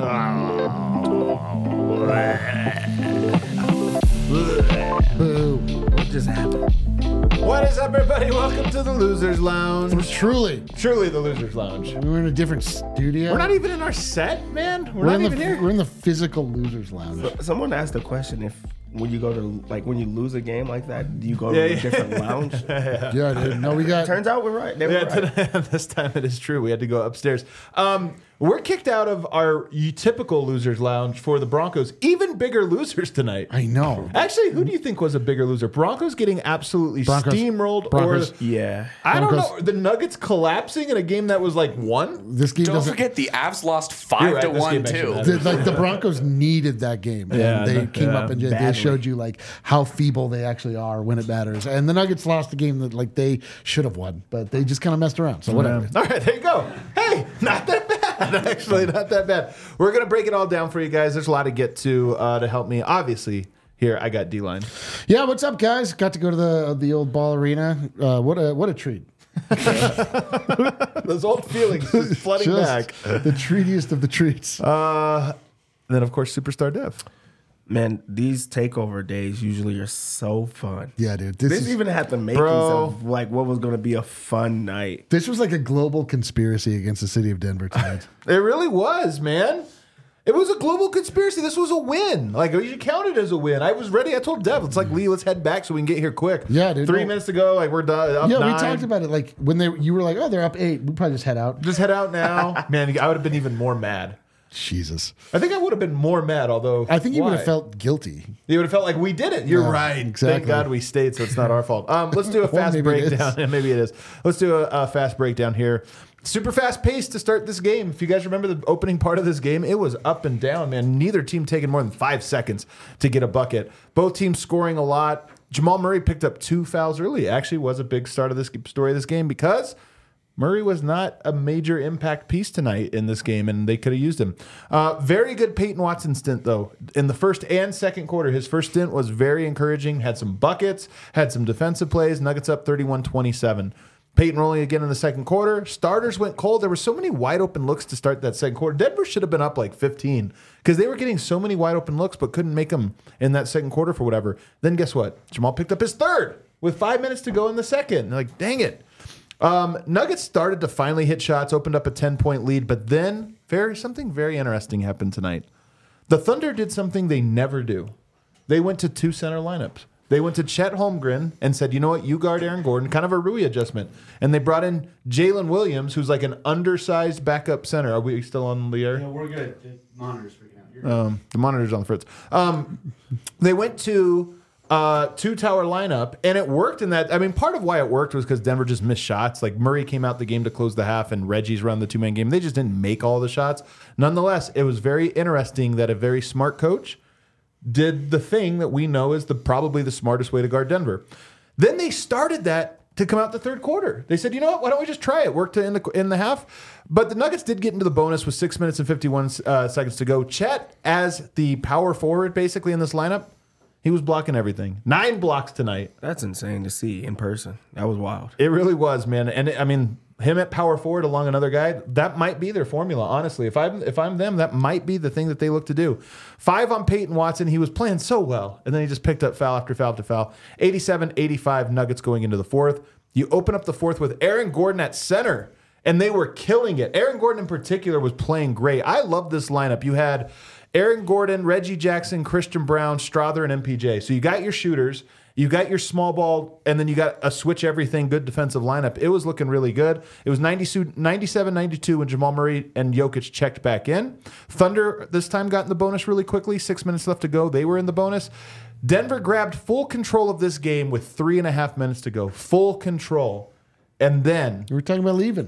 Boo. What just happened? What is up, everybody? Welcome to the Losers Lounge. Truly. The Losers Lounge. We're in a different studio. We're not even in our set, man. We're We're not even here. We're in the physical Losers Lounge. Someone asked a question if when you go to, like, when you lose a game like that, do you go to a different lounge? Yeah, dude. No, we got. Turns out we're right. They were right. Today, this time it is true. We had to go upstairs. We're kicked out of our typical Losers Lounge for the Broncos. Even bigger losers tonight. I know. Actually, who do you think was a bigger loser? Broncos getting absolutely steamrolled, Broncos. or Yeah. I don't Broncos. know, the Nuggets collapsing in a game that was like won? This game Don't doesn't. forget the Avs lost You're right, 5-1 this game too. actually The Broncos needed that game. And Yeah, they came yeah, up and they badly. showed you like how feeble they actually are when it matters. And the Nuggets lost a game that like they should have won, but they just kind of messed around. So whatever. All right, there you go. Hey, not that bad. Actually, not that bad. We're going to break it all down for you guys. There's a lot to get to help me. Obviously, here I got D-Line. Yeah, what's up, guys? Got to go to the old ball arena. What a treat. Those old feelings just flooding Just back. the treatiest of the treats. Then, of course, Superstar Dev. Man, these takeover days usually are so fun. Yeah, dude. This even had the makings Bro. of like what was going to be a fun night. This was like a global conspiracy against the city of Denver tonight. It really was, man. It was a global conspiracy. This was a win. Like, you should count it as a win. I was ready. I told Dev, it's like, Lee, let's head back so we can get here quick. Yeah, dude. 3 minutes to go. Like, we're done. Up Yeah, 9. we talked about it. Like when you were like, "Oh, they're up 8. We probably just head out." Just head out now. Man, I would have been even more mad. Jesus, I think I would have been more mad, although. I think you would why? have felt guilty. You would have felt like we did it. You're Yeah, right. exactly. Thank God we stayed, so it's not our fault. Let's do a fast maybe it is. breakdown. And maybe it is. Let's do a fast breakdown here. Super fast pace to start this game. If you guys remember the opening part of this game, it was up and down, man. Neither team taking more than 5 seconds to get a bucket. Both teams scoring a lot. Jamal Murray picked up 2 fouls early. Actually was a big start of this story of this game because Murray was not a major impact piece tonight in this game, and they could have used him. Very good Peyton Watson stint, though. In the first and second quarter, his first stint was very encouraging. Had some buckets, had some defensive plays. Nuggets up 31-27. Peyton rolling again in the second quarter. Starters went cold. There were so many wide open looks to start that second quarter. Denver should have been up like 15 because they were getting so many wide open looks but couldn't make them in that second quarter for whatever. Then guess what? Jamal picked up his third with 5 minutes to go in the second. Like, dang it. Nuggets started to finally hit shots, opened up a 10-point lead, but then something very interesting happened tonight. The Thunder did something they never do. They went to 2 center lineups. They went to Chet Holmgren and said, you know what, you guard Aaron Gordon, kind of a Rui adjustment. And they brought in Jalen Williams, who's like an undersized backup center. Are we still on the air? No, we're good. The monitor's freaking out. You're good. The monitor's on the fritz. They went to 2-tower lineup, and it worked in that. I mean, part of why it worked was because Denver just missed shots. Like, Murray came out the game to close the half, and Reggie's run the 2-man game. They just didn't make all the shots. Nonetheless, it was very interesting that a very smart coach did the thing that we know is probably the smartest way to guard Denver. Then they started that to come out the third quarter. They said, you know what, why don't we just try it? Worked in the half. But the Nuggets did get into the bonus with 6 minutes and 51 seconds to go. Chet, as the power forward basically in this lineup, he was blocking everything. 9 blocks tonight. That's insane to see in person. That was wild. It really was, man. And I mean, him at power forward along another guy, that might be their formula, honestly. If I'm them, that might be the thing that they look to do. 5 on Peyton Watson. He was playing so well, and then he just picked up foul after foul after foul. 87-85 Nuggets going into the fourth. You open up the fourth with Aaron Gordon at center, and they were killing it. Aaron Gordon in particular was playing great. I love this lineup. You had Aaron Gordon, Reggie Jackson, Christian Brown, Strother, and MPJ. So you got your shooters. You got your small ball, and then you got a switch everything, good defensive lineup. It was looking really good. It was 97-92 when Jamal Murray and Jokic checked back in. Thunder this time got in the bonus really quickly. 6 minutes left to go. They were in the bonus. Denver grabbed full control of this game with 3.5 minutes to go. Full control. And then We were talking about leaving.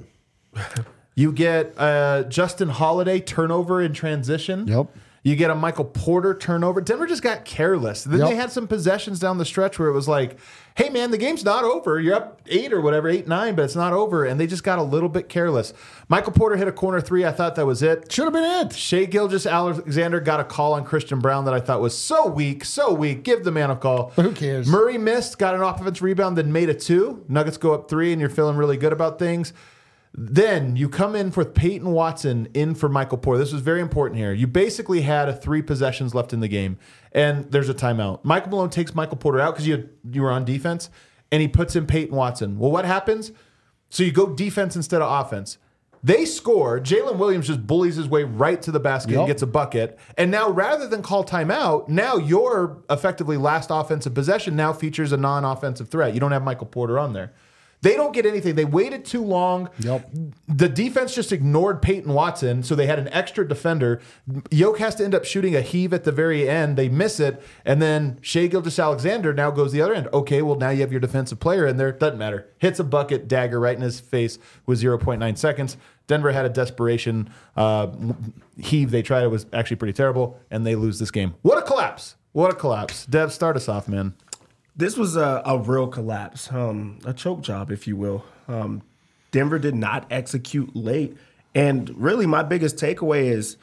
you get Justin Holiday turnover in transition. Yep. You get a Michael Porter turnover. Denver just got careless. Then Yep. they had some possessions down the stretch where it was like, hey, man, the game's not over. You're up 8 or whatever, 8-9, but it's not over. And they just got a little bit careless. Michael Porter hit a corner 3. I thought that was it. Should have been it. Shea Gilgeous-Alexander got a call on Christian Brown that I thought was so weak, so weak. Give the man a call. Who cares? Murray missed, got an offensive rebound, then made a 2. Nuggets go up 3, and you're feeling really good about things. Then you come in for Peyton Watson in for Michael Porter. This was very important here. You basically had 3 possessions left in the game, and there's a timeout. Michael Malone takes Michael Porter out because you were on defense, and he puts in Peyton Watson. Well, what happens? So you go defense instead of offense. They score. Jalen Williams just bullies his way right to the basket and gets a bucket. And now rather than call timeout, now your effectively last offensive possession now features a non-offensive threat. You don't have Michael Porter on there. They don't get anything. They waited too long. Yep. The defense just ignored Peyton Watson, so they had an extra defender. Yoke has to end up shooting a heave at the very end. They miss it, and then Shai Gilgeous-Alexander now goes the other end. Okay, well, now you have your defensive player in there. Doesn't matter. Hits a bucket, dagger right in his face with 0.9 seconds. Denver had a desperation heave they tried. It was actually pretty terrible, and they lose this game. What a collapse. What a collapse. Dev, start us off, man. This was a real collapse, a choke job, if you will. Denver did not execute late. And really, my biggest takeaway is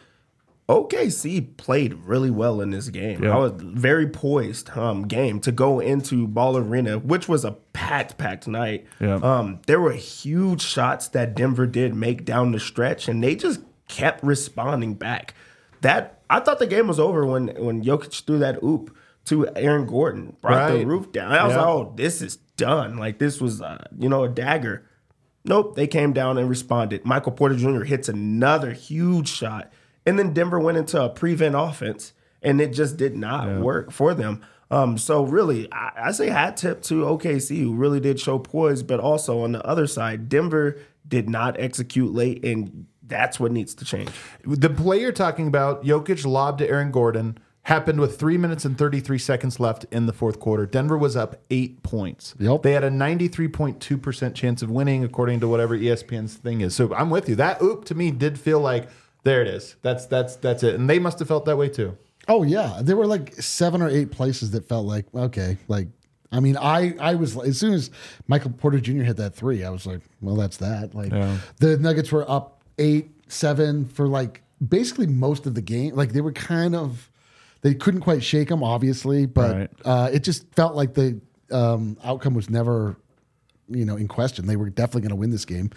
OKC played really well in this game. Yeah. I was very poised game to go into Ball Arena, which was a packed night. Yeah. There were huge shots that Denver did make down the stretch, and they just kept responding back. I thought the game was over when Jokic threw that oop to Aaron Gordon, brought the roof down. I was like, oh, this is done. Like, this was, a dagger. Nope, they came down and responded. Michael Porter Jr. hits another huge shot. And then Denver went into a prevent offense, and it just did not work for them. So really, I say hat tip to OKC, who really did show poise, but also on the other side, Denver did not execute late, and that's what needs to change. The play you're talking about, Jokic lobbed to Aaron Gordon, happened with 3 minutes and 33 seconds left in the fourth quarter. Denver was up 8 points. Yep. They had a 93.2% chance of winning, according to whatever ESPN's thing is. So I'm with you. That oop to me did feel like, there it is. That's it. And they must have felt that way too. Oh yeah, there were like 7 or 8 places that felt like, okay, like, I mean, I was, as soon as Michael Porter Jr. hit that 3, I was like, well, that's that. Like, the Nuggets were up 8-7 for like basically most of the game. Like, they were kind of, they couldn't quite shake them, obviously, but it just felt like the outcome was never, in question. They were definitely going to win this game.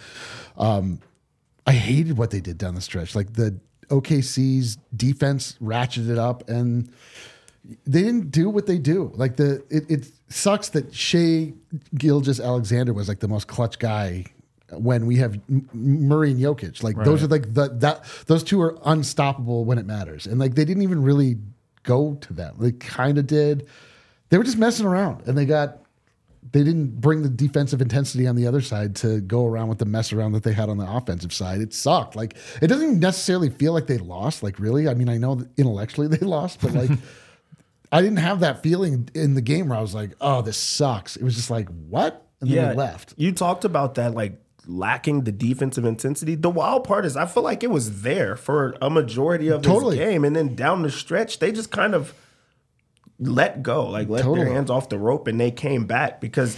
I hated what they did down the stretch. Like, the OKC's defense ratcheted up, and they didn't do what they do. Like, it sucks that Shai Gilgeous-Alexander was like the most clutch guy when we have Murray and Jokic. Like, those are like those two are unstoppable when it matters, and like they didn't even really go to them. They kind of did. They were just messing around, and they didn't bring the defensive intensity on the other side to go around with the mess around that they had on the offensive side. It sucked. Like, it doesn't necessarily feel like they lost. Like, really? I mean, I know that intellectually they lost, but like, I didn't have that feeling in the game where I was like, oh, this sucks. It was just like, what? And then they left. You talked about that, like, lacking the defensive intensity. The wild part is I feel like it was there for a majority of this game, and then down the stretch, they just kind of let go, like let their hands off the rope, and they came back because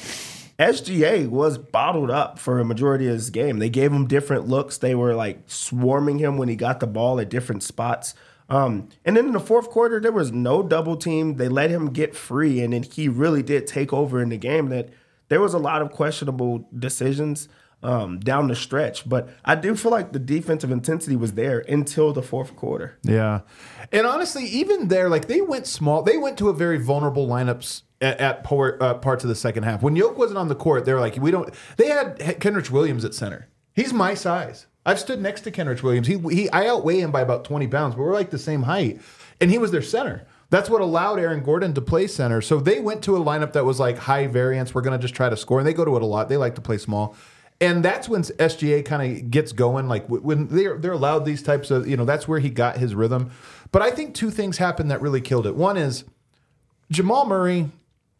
SGA was bottled up for a majority of this game. They gave him different looks. They were like swarming him when he got the ball at different spots. And then in the fourth quarter, there was no double team. They let him get free, and then he really did take over in the game. That there was a lot of questionable decisions down the stretch, but I do feel like the defensive intensity was there until the fourth quarter. Yeah. And honestly, even there, like, they went small. They went to a very vulnerable lineups at parts of the second half. When Yoke wasn't on the court, they were like, they had Kenrich Williams at center. He's my size. I've stood next to Kenrich Williams. I outweigh him by about 20 pounds, but we're like the same height. And he was their center. That's what allowed Aaron Gordon to play center. So they went to a lineup that was like high variance. We're going to just try to score. And they go to it a lot. They like to play small. And that's when SGA kind of gets going, like when they're allowed these types of, that's where he got his rhythm. But I think 2 things happened that really killed it. One is Jamal Murray,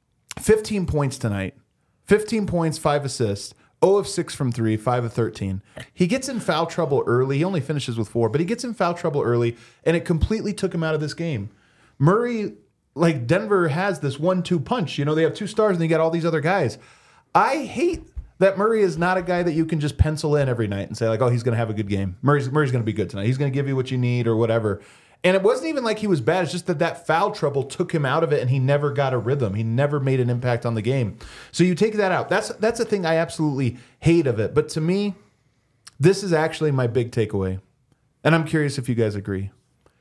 15 points tonight, 15 points, 5 assists, 0 of 6 from 3, 5 of 13. He gets in foul trouble early. He only finishes with 4, but he gets in foul trouble early, and it completely took him out of this game. Murray, like, Denver has this 1-2 punch. They have 2 stars, and they got all these other guys. I hate that Murray is not a guy that you can just pencil in every night and say, like, oh, he's going to have a good game. Murray's going to be good tonight. He's going to give you what you need or whatever. And it wasn't even like he was bad. It's just that foul trouble took him out of it, and he never got a rhythm. He never made an impact on the game. So you take that out. That's the thing I absolutely hate of it. But to me, This is actually my big takeaway, and I'm curious if you guys agree.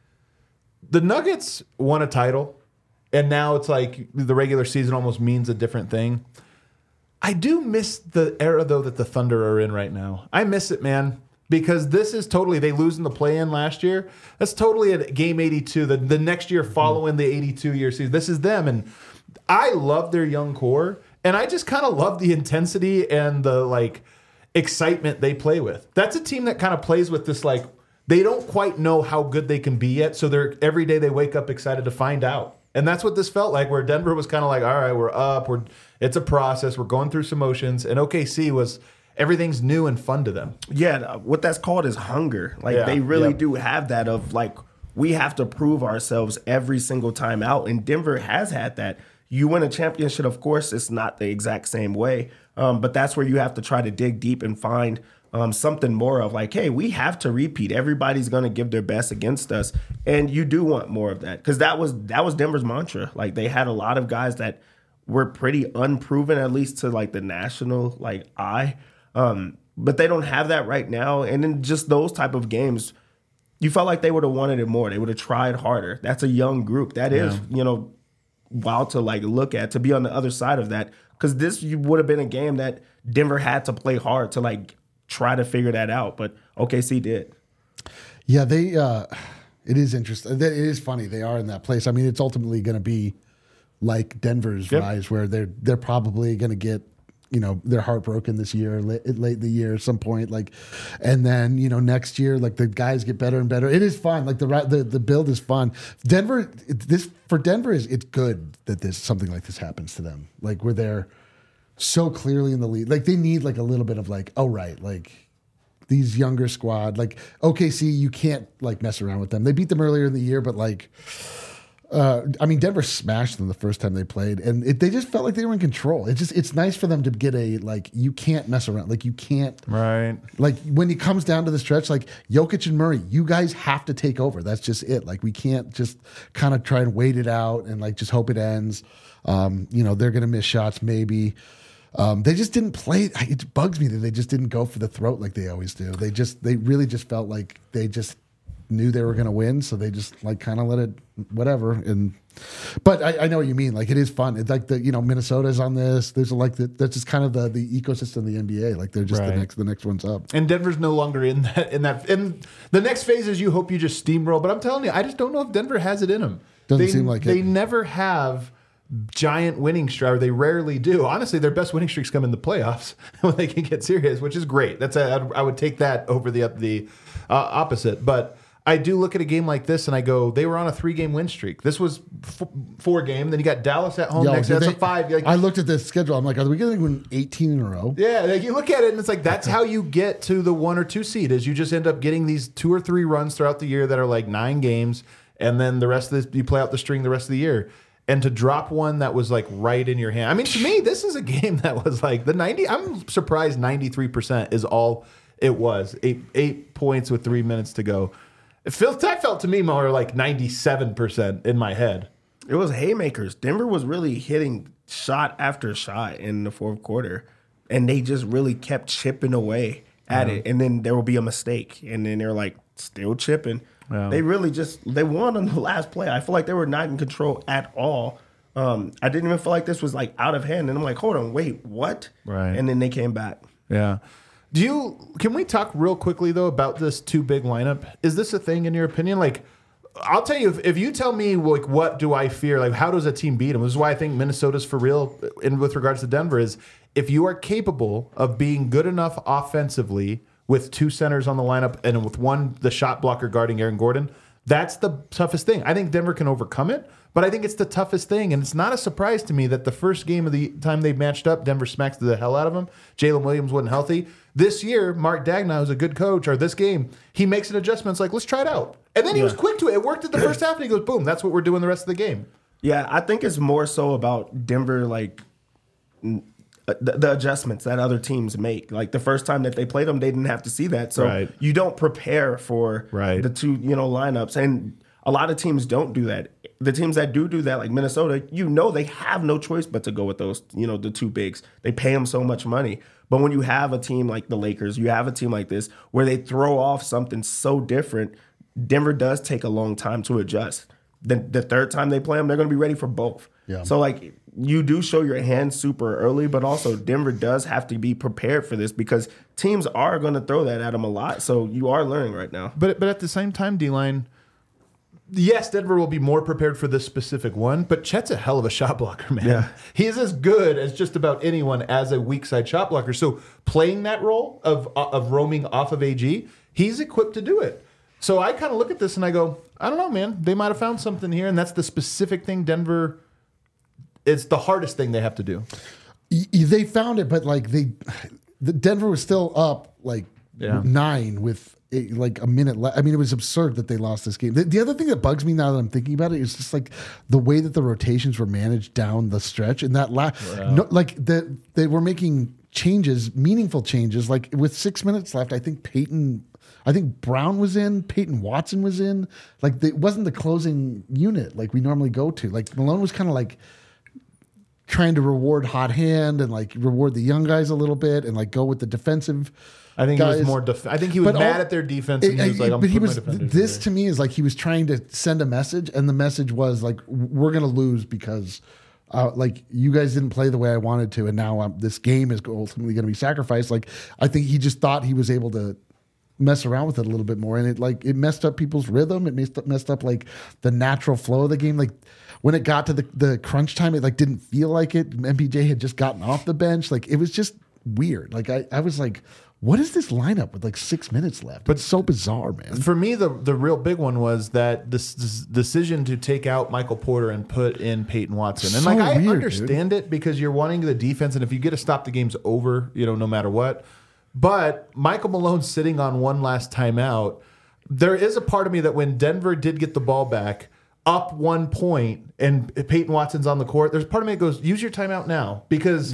The Nuggets won a title, and now it's like the regular season almost means a different thing. I do miss the era, though, that the Thunder are in right now. I miss it, man, because this is totally, they lose in the play-in last year. That's totally a game 82, the next year following the 82-year season. This is them, and I love their young core, and I just kind of love the intensity and the, like, excitement they play with. That's a team that kind of plays with this, like, they don't quite know how good they can be yet, so they're every day they wake up excited to find out. And that's what this felt like, where Denver was kind of like, all right, we're up, it's a process, we're going through some motions, and OKC was everything's new and fun to them. Yeah, what that's called is hunger. Like they really do have that of like, we have to prove ourselves every single time out, and Denver has had that. You win a championship, of course, it's not the exact same way, but that's where you have to try to dig deep and find something more of like, hey, we have to repeat. Everybody's going to give their best against us, and you do want more of that because that was Denver's mantra. Like they had a lot of guys that were pretty unproven, at least to like the national like eye, but they don't have that right now. And in just those type of games, you felt like they would have wanted it more. They would have tried harder. That's a young group. That is, wild to like look at, to be on the other side of that, because this would have been a game that Denver had to play hard to like try to figure that out, but OKC did. Yeah, they. It is interesting. It is funny. They are in that place. I mean, it's ultimately going to be like Denver's rise, where they're probably going to get their heart broken this year, late in the year at some point, like, and then next year, like the guys get better and better. It is fun. Like the build is fun. Denver, for Denver it's good that something like this happens to them. Like where they're so clearly in the lead. Like they need like a little bit of like, oh right, like these younger squad, like OKC, you can't like mess around with them. They beat them earlier in the year, but like, I mean, Denver smashed them the first time they played, and they just felt like they were in control. It's nice for them to get like, you can't mess around. Like you can't, right? Like when it comes down to the stretch, like Jokic and Murray, you guys have to take over. That's just it. Like we can't just kind of try and wait it out and like just hope it ends. They're going to miss shots maybe. They just didn't play. It bugs me that they just didn't go for the throat like they always do. They really just felt like they just knew they were going to win, so they just like kind of let it whatever. But I know what you mean. Like it is fun. It's like Minnesota's on this. There's like that's just kind of the ecosystem of the NBA. Like they're just the next one's up. And Denver's no longer in that. And the next phase is you hope you just steamroll. But I'm telling you, I just don't know if Denver has it in them. Doesn't seem like they never have giant winning streak, or they rarely do. Honestly, their best winning streaks come in the playoffs when they can get serious, which is great. I would take that over the opposite. But I do look at a game like this and I go, they were on a 3-game win streak. This was 4-game. Then you got Dallas at home next. That's a 5. I looked at this schedule. I'm like, are we going to win 18 in a row? Yeah, like you look at it and it's like that's how you get to the 1 or 2 seed. Is you just end up getting these 2 or 3 runs throughout the year that are like 9 games, and then the rest of this you play out the string the rest of the year. And to drop one that was like right in your hand. I mean, to me, this is a game that was like the 90. I'm surprised 93% is all it was. 8 points with 3 minutes to go. That felt to me more like 97% in my head. It was haymakers. Denver was really hitting shot after shot in the fourth quarter, and they just really kept chipping away at it. And then there will be a mistake, and then they're like still chipping. Yeah. They really they won on the last play. I feel like they were not in control at all. I didn't even feel like this was like out of hand. And I'm like, hold on, wait, what? Right. And then they came back. Yeah. Can we talk real quickly though about this 2 big lineup? Is this a thing in your opinion? Like, I'll tell you, if you tell me like what do I fear, like how does a team beat them? This is why I think Minnesota's for real with regards to Denver is if you are capable of being good enough offensively with 2 centers on the lineup and with the shot blocker guarding Aaron Gordon, that's the toughest thing. I think Denver can overcome it, but I think it's the toughest thing. And it's not a surprise to me that the first game of the time they matched up, Denver smacked the hell out of them. Jalen Williams wasn't healthy. This year, Mark Daigneault, who's a good coach, or this game, he makes an adjustment. It's like, let's try it out. And then he was quick to it. It worked at the first half, and he goes, boom, that's what we're doing the rest of the game. Yeah, I think it's more so about Denver, like, the adjustments that other teams make. Like the first time that they played them, they didn't have to see that. So you don't prepare for the 2, lineups. And a lot of teams don't do that. The teams that do that, like Minnesota, they have no choice but to go with those, the 2 bigs. They pay them so much money. But when you have a team like the Lakers, you have a team like this where they throw off something so different, Denver does take a long time to adjust. The third time they play them, they're going to be ready for both. Yeah. So, like, you do show your hand super early, but also Denver does have to be prepared for this because teams are going to throw that at them a lot. So you are learning right now. But at the same time, D-Line, yes, Denver will be more prepared for this specific one, but Chet's a hell of a shot blocker, man. Yeah. He is as good as just about anyone as a weak side shot blocker. So playing that role of roaming off of AG, he's equipped to do it. So I kind of look at this and I go, I don't know, man. They might have found something here, and that's the specific thing Denver. It's the hardest thing they have to do. They found it, but like the Denver was still up like 9 with like a minute left. I mean, it was absurd that they lost this game. The other thing that bugs me now that I'm thinking about it is just like the way that the rotations were managed down the stretch. And that they were making changes, meaningful changes. Like with 6 minutes left, I think Brown was in, Peyton Watson was in. Like it wasn't the closing unit like we normally go to. Like Malone was kind of like trying to reward hot hand and like reward the young guys a little bit and like go with the defensive. I think guys. he was more. I think he was mad at their defense. And he was like, but he was. This to me is like he was trying to send a message, and the message was like, "We're gonna lose because, like, you guys didn't play the way I wanted to, and now this game is ultimately going to be sacrificed." Like, I think he just thought he was able to mess around with it a little bit more, and it messed up people's rhythm. It messed up like the natural flow of the game. Like when it got to the crunch time, it like didn't feel like it. MPJ had just gotten off the bench. Like it was just weird. Like I was like, what is this lineup with like 6 minutes left? But it's so bizarre, man. For me, the real big one was that this decision to take out Michael Porter and put in Peyton Watson. And So like I weird, understand it because you're wanting the defense, and if you get to stop, the game's over, no matter what. But Michael Malone sitting on one last timeout, there is a part of me that when Denver did get the ball back, up 1 point and Peyton Watson's on the court, there's part of me that goes, use your timeout now because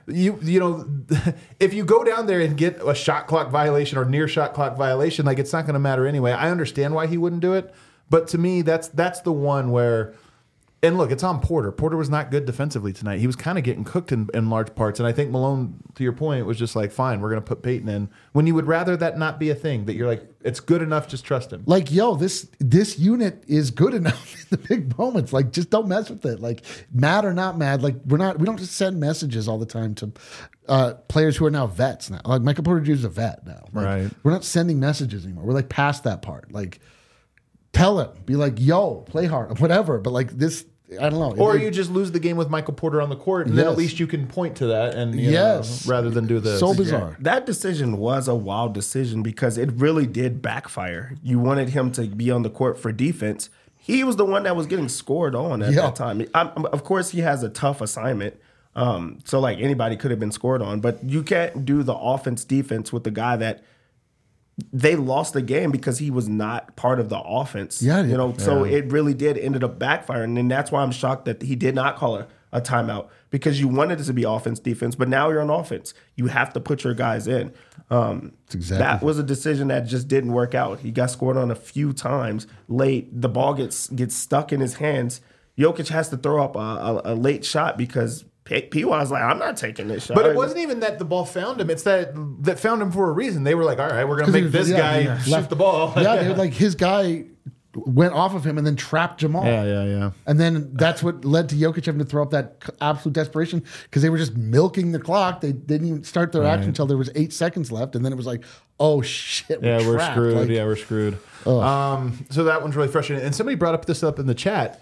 if you go down there and get a shot clock violation or near shot clock violation, like it's not going to matter anyway. I understand why he wouldn't do it, but to me that's the one where. And look, it's on Porter. Porter was not good defensively tonight. He was kind of getting cooked in large parts. And I think Malone, to your point, was just like, fine, we're going to put Peyton in. When you would rather that not be a thing, that you're like, it's good enough, just trust him. Like, yo, this unit is good enough in the big moments. Like, just don't mess with it. Like, mad or not mad, like we don't just send messages all the time to players who are now vets now. Like Michael Porter Jr. is a vet now. Like, right. We're not sending messages anymore. We're like past that part. Like, tell him, be like, yo, play hard, whatever. But like this. I don't know. Or you just lose the game with Michael Porter on the court, and then at least you can point to that, and rather than do this. So bizarre. That decision was a wild decision because it really did backfire. You wanted him to be on the court for defense. He was the one that was getting scored on at that time. Of course, he has a tough assignment. So like anybody could have been scored on, but you can't do the offense defense with the guy that they lost the game because he was not part of the offense. So it really ended up backfiring. And that's why I'm shocked that he did not call a timeout because you wanted it to be offense, defense, but now you're on offense. You have to put your guys in. That was a decision that just didn't work out. He got scored on a few times late. The ball gets stuck in his hands. Jokic has to throw up a late shot because P.Y.'s like, I'm not taking this shot. But it wasn't even that the ball found him. It's that found him for a reason. They were like, all right, we're going to make this guy shoot the ball. Dude, like his guy went off of him and then trapped Jamal. Yeah. And then that's what led to Jokic having to throw up that absolute desperation because they were just milking the clock. They didn't even start their action until there was 8 seconds left. And then it was like, oh, shit, we're trapped. screwed. Like, we're screwed. So that one's really frustrating. And somebody brought this up in the chat.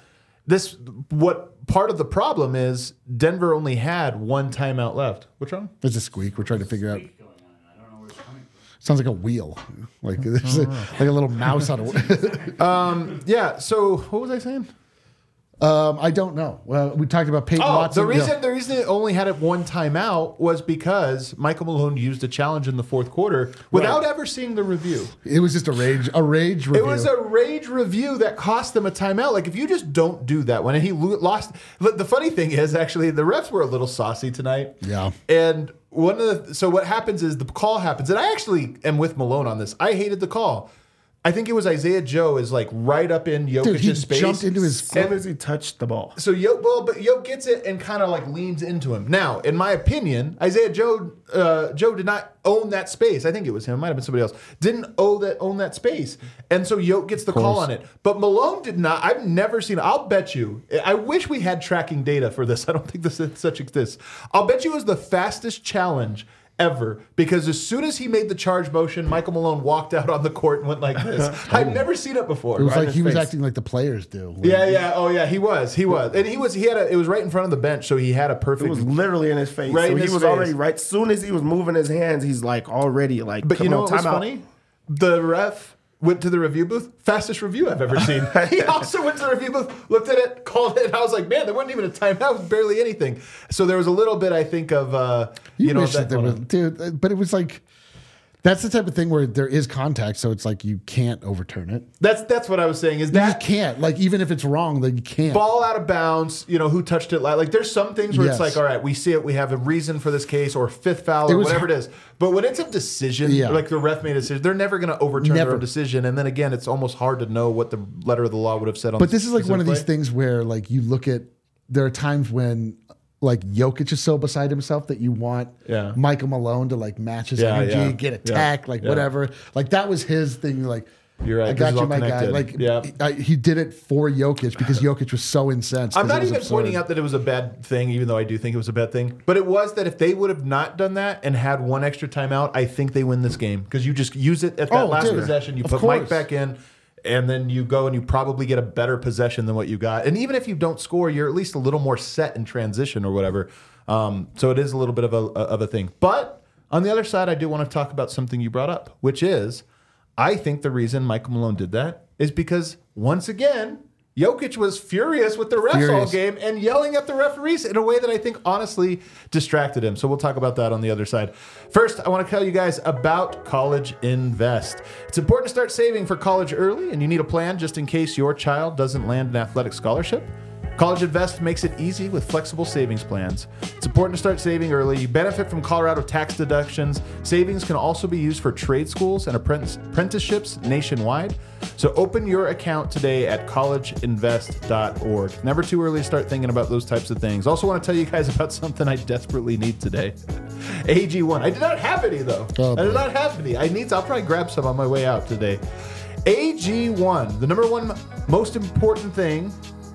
What part of the problem is Denver only had one timeout left. What's wrong? There's a squeak. We're trying to figure out. I don't know where it's coming from. Sounds like a wheel. Like there's like a little mouse on a Yeah, so what was I saying? I don't know. Well, we talked about Peyton Watson. The reason it only had it one timeout was because Michael Malone used a challenge in the fourth quarter without ever seeing the review. It was just a rage review. It was a rage review that cost them a timeout. Like if you just don't do that one, and he lost. The funny thing is, actually, the refs were a little saucy tonight. Yeah. And so what happens is the call happens, and I actually am with Malone on this. I hated the call. I think it was Isaiah Joe is like right up in Jokic's space. Jumped into his As soon as he touched the ball. So Jokic gets it and kind of like leans into him. Now, in my opinion, Isaiah Joe did not own that space. I think it was him. It might have been somebody else. Didn't own that space. And so Jokic gets the call on it. But Malone did not. I've never seen. I'll bet you. I wish we had tracking data for this. I don't think such exists. I'll bet you it was the fastest challenge ever, because as soon as he made the charge motion, Michael Malone walked out on the court and went like this. I've never seen it before. It was like he was acting like the players do. Yeah. He was, and it was right in front of the bench, so he had a perfect. It was literally in his face. Right so in he his was face. already right. As soon as he was moving his hands, he's like already like. But you know what was funny? The ref went to the review booth. Fastest review I've ever seen. He also went to the review booth, looked at it, called it. And I was like, man, there wasn't even a timeout. It was barely anything. So there was a little bit, I think, of dude. But it was like. That's the type of thing where there is contact, so it's like you can't overturn it. That's what I was saying. Is that you can't, like, even if it's wrong, like you can't. Ball out of bounds, who touched it? Like there's some things where it's like, all right, we see it, we have a reason for this case, or fifth foul, or whatever it is. But when it's a decision, like the ref made a decision, they're never going to overturn their own decision. And then again, it's almost hard to know what the letter of the law would have said on. But this is like one of these things where, like, you look at. There are times when. Like Jokic is so beside himself that you want Michael Malone to like match his energy, get attacked, whatever. Like that was his thing. Like, you're right. I got you, my guy. Like, he did it for Jokic because Jokic was so incensed. I'm not even pointing out that it was a bad thing, even though I do think it was a bad thing. But it was that if they would have not done that and had one extra timeout, I think they win this game because you just use it at that last possession. You put Mike back in. And then you go and you probably get a better possession than what you got. And even if you don't score, you're at least a little more set in transition or whatever. So it is a little bit of a thing. But on the other side, I do want to talk about something you brought up, which is I think the reason Michael Malone did that is because, once again, Jokic was furious with the refs all game and yelling at the referees in a way that I think honestly distracted him. So we'll talk about that on the other side. First, I want to tell you guys about College Invest. It's important to start saving for college early, and you need a plan just in case your child doesn't land an athletic scholarship. College Invest makes it easy with flexible savings plans. It's important to start saving early. You benefit from Colorado tax deductions. Savings can also be used for trade schools and apprenticeships nationwide. So open your account today at collegeinvest.org. Never too early to start thinking about those types of things. Also want to tell you guys about something I desperately need today. AG1. I did not have any though. I did not have any. I'll probably grab some on my way out today. AG1, the number one most important thing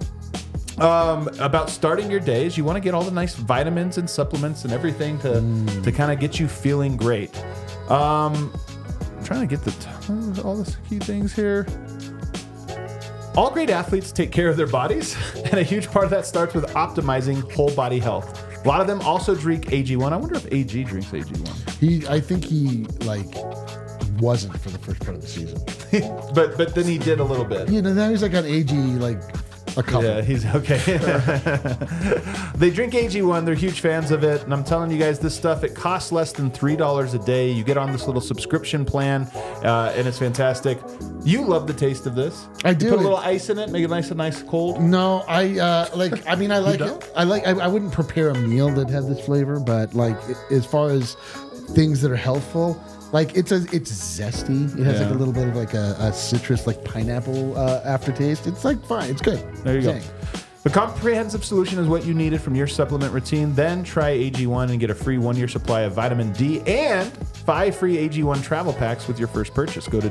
about starting your day is you want to get all the nice vitamins and supplements and everything to kind of get you feeling great. I'm trying to get all the key things here. All great athletes take care of their bodies, and a huge part of that starts with optimizing whole body health. A lot of them also drink AG1. I wonder if AG drinks AG1. I think he wasn't for the first part of the season, but then he did a little bit. Now he's like on AG a couple. Yeah, he's okay. They drink AG1. They're huge fans of it. And I'm telling you guys, this stuff, it costs less than $3 a day. You get on this little subscription plan, and it's fantastic. You love the taste of this. I do. You put a little ice in it, make it nice and cold. No, I like it. I wouldn't prepare a meal that had this flavor, but like as far as things that are healthful, like it's zesty. It has like a little bit of like a citrus, like pineapple aftertaste. It's like fine. It's good. There you go. The comprehensive solution is what you needed from your supplement routine. Then try AG1 and get a free 1-year supply of vitamin D and 5 free AG1 travel packs with your first purchase. Go to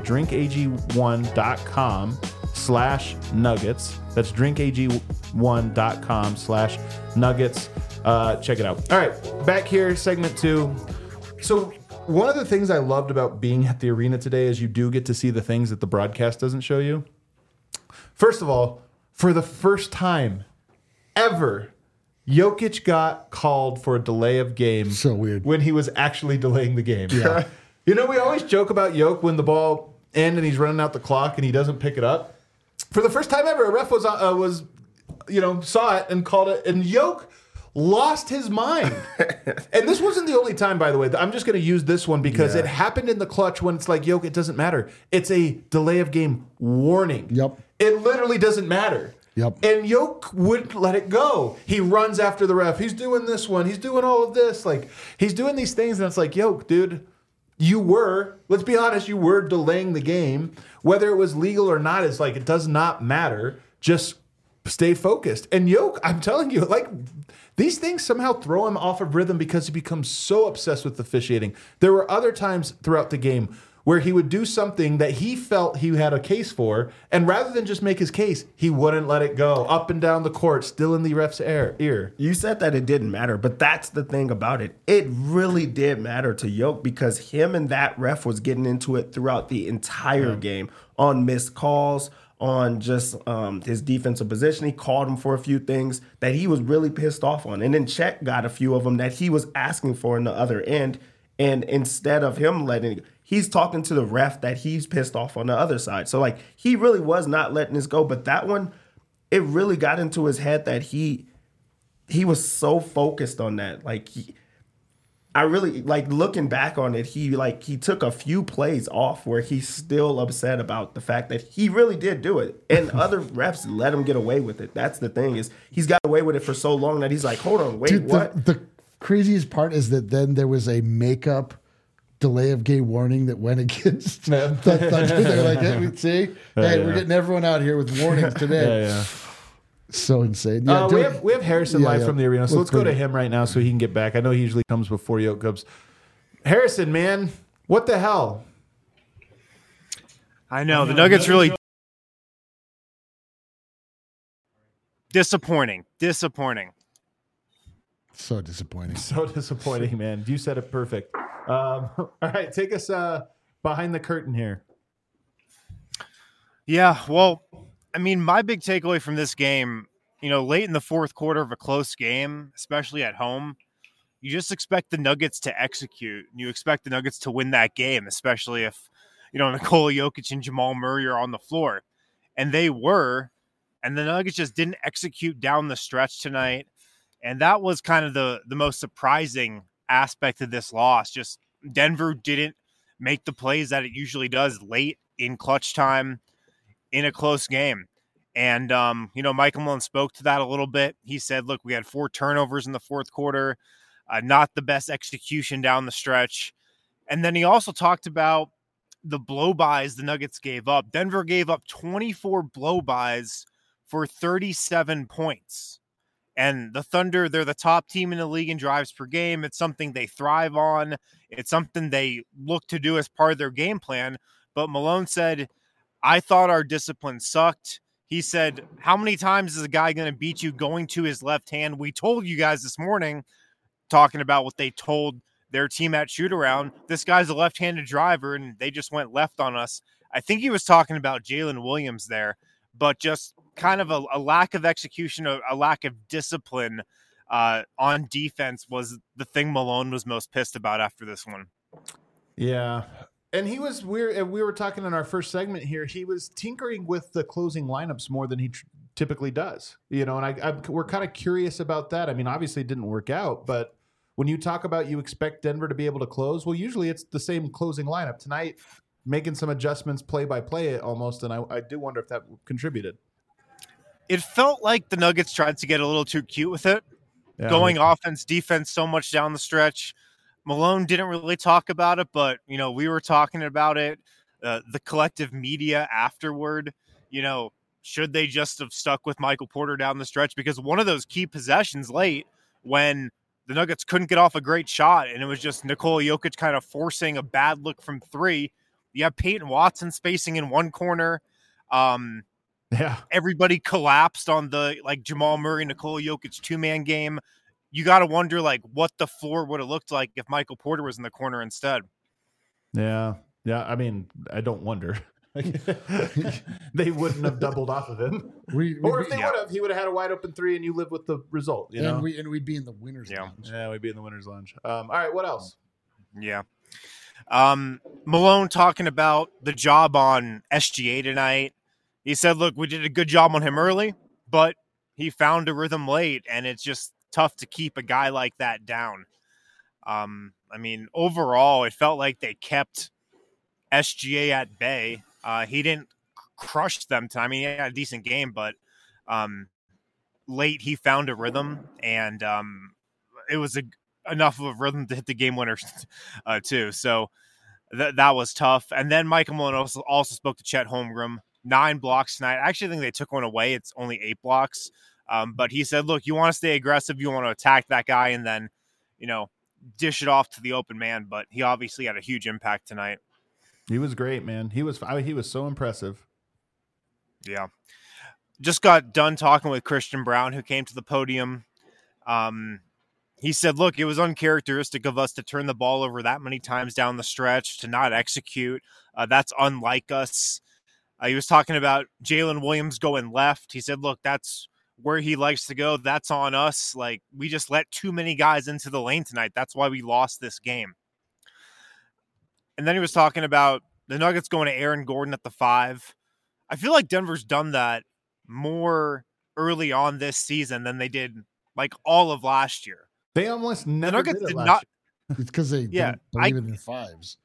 drinkag1.com/nuggets. That's drinkag1.com/nuggets. Check it out. All right, back here, segment 2. So one of the things I loved about being at the arena today is you do get to see the things that the broadcast doesn't show you. First of all, for the first time ever, Jokic got called for a delay of game. So weird. When he was actually delaying the game. Yeah. We always joke about Jokic when the ball ends and he's running out the clock and he doesn't pick it up. For the first time ever, a ref saw it and called it, and Jokic lost his mind. And this wasn't the only time, by the way. I'm just going to use this one because it happened in the clutch when it's like, Jokic, it doesn't matter. It's a delay of game warning. Yep. It literally doesn't matter. Yep. And Jokic wouldn't let it go. He runs after the ref. He's doing this one. He's doing all of this. Like, he's doing these things, and it's like, Jokic, dude, let's be honest, you were delaying the game. Whether it was legal or not, it's like, it does not matter. Just stay focused. And Yoke, I'm telling you, like, these things somehow throw him off of rhythm because he becomes so obsessed with officiating. There were other times throughout the game where he would do something that he felt he had a case for, and rather than just make his case, he wouldn't let it go. Up and down the court, still in the ref's ear. You said that it didn't matter, but that's the thing about it. It really did matter to Yoke because him and that ref was getting into it throughout the entire game on missed calls, on just his defensive position. He called him for a few things that he was really pissed off on. And then Chet got a few of them that he was asking for in the other end. And instead of him letting it go, he's talking to the ref that he's pissed off on the other side. So, like, he really was not letting this go. But that one, it really got into his head that he was so focused on that. Like, I really, like, looking back on it, he took a few plays off where he's still upset about the fact that he really did do it. And other refs let him get away with it. That's the thing, is he's got away with it for so long that he's like, hold on, wait, Dude, what? The craziest part is that then there was a makeup delay of game warning that went against the Thunder. They're like, hey, see? We're getting everyone out here with warnings today. Yeah. So insane. Yeah, we have Harrison live from the arena, so let's go to it. him right now so he can get back. I know he usually comes before Yoke comes. Harrison, man, what the hell? I know, the Nuggets really disappointing. So disappointing. So disappointing, man. You said it perfect. All right, take us behind the curtain here. Yeah, well, I mean, my big takeaway from this game, late in the fourth quarter of a close game, especially at home, you just expect the Nuggets to execute. You expect the Nuggets to win that game, especially if, Nikola Jokic and Jamal Murray are on the floor. And they were, and the Nuggets just didn't execute down the stretch tonight. And that was kind of the most surprising aspect of this loss. Just Denver didn't make the plays that it usually does late in clutch time in a close game. And, Michael Malone spoke to that a little bit. He said, look, we had 4 turnovers in the fourth quarter, not the best execution down the stretch. And then he also talked about the blow-bys the Nuggets gave up. Denver gave up 24 blow-bys for 37 points. And the Thunder, they're the top team in the league in drives per game. It's something they thrive on. It's something they look to do as part of their game plan. But Malone said, I thought our discipline sucked. He said, how many times is a guy going to beat you going to his left hand? We told you guys this morning, talking about what they told their team at shoot-around. This guy's a left-handed driver, and they just went left on us. I think he was talking about Jalen Williams there, but just kind of a lack of execution, a lack of discipline on defense was the thing Malone was most pissed about after this one. Yeah. And we were talking in our first segment here, he was tinkering with the closing lineups more than he typically does. And we're kind of curious about that. I mean, obviously it didn't work out, but when you talk about you expect Denver to be able to close, well, usually it's the same closing lineup. Tonight, making some adjustments play by play almost, and I do wonder if that contributed. It felt like the Nuggets tried to get a little too cute with it, going offense, defense so much down the stretch. Malone didn't really talk about it, but, we were talking about it. The collective media afterward, should they just have stuck with Michael Porter down the stretch? Because one of those key possessions late when the Nuggets couldn't get off a great shot, and it was just Nikola Jokic kind of forcing a bad look from 3. You have Peyton Watson spacing in one corner. Everybody collapsed on the Jamal Murray, Nikola Jokic 2-man game. You got to wonder what the floor would have looked like if Michael Porter was in the corner instead. Yeah. I mean, I don't wonder. They wouldn't have doubled off of him. Or if they would have, he would have had a wide open 3 and you live with the result. And we'd be in the winner's lounge. Yeah, we'd be in the winner's lounge. All right, what else? Yeah. Malone talking about the job on SGA tonight. He said, look, we did a good job on him early, but he found a rhythm late, and it's just tough to keep a guy like that down. I mean, overall, it felt like they kept SGA at bay. He didn't crush them. I mean, he had a decent game, but late he found a rhythm, and it was enough of a rhythm to hit the game winner too. So that was tough. And then Michael Malone also spoke to Chet Holmgren. 9 blocks tonight. I actually think they took one away. It's only 8 blocks. But he said, look, you want to stay aggressive. You want to attack that guy and then, dish it off to the open man. But he obviously had a huge impact tonight. He was great, man. He was so impressive. Yeah. Just got done talking with Christian Braun, who came to the podium. He said, look, it was uncharacteristic of us to turn the ball over that many times down the stretch, to not execute. That's unlike us. He was talking about Jalen Williams going left. He said, look, that's where he likes to go. That's on us. Like, we just let too many guys into the lane tonight. That's why we lost this game. And then he was talking about the Nuggets going to Aaron Gordon at the 5. I feel like Denver's done that more early on this season than they did like all of last year. They almost never did it last year. It's because they don't believe in their 5s.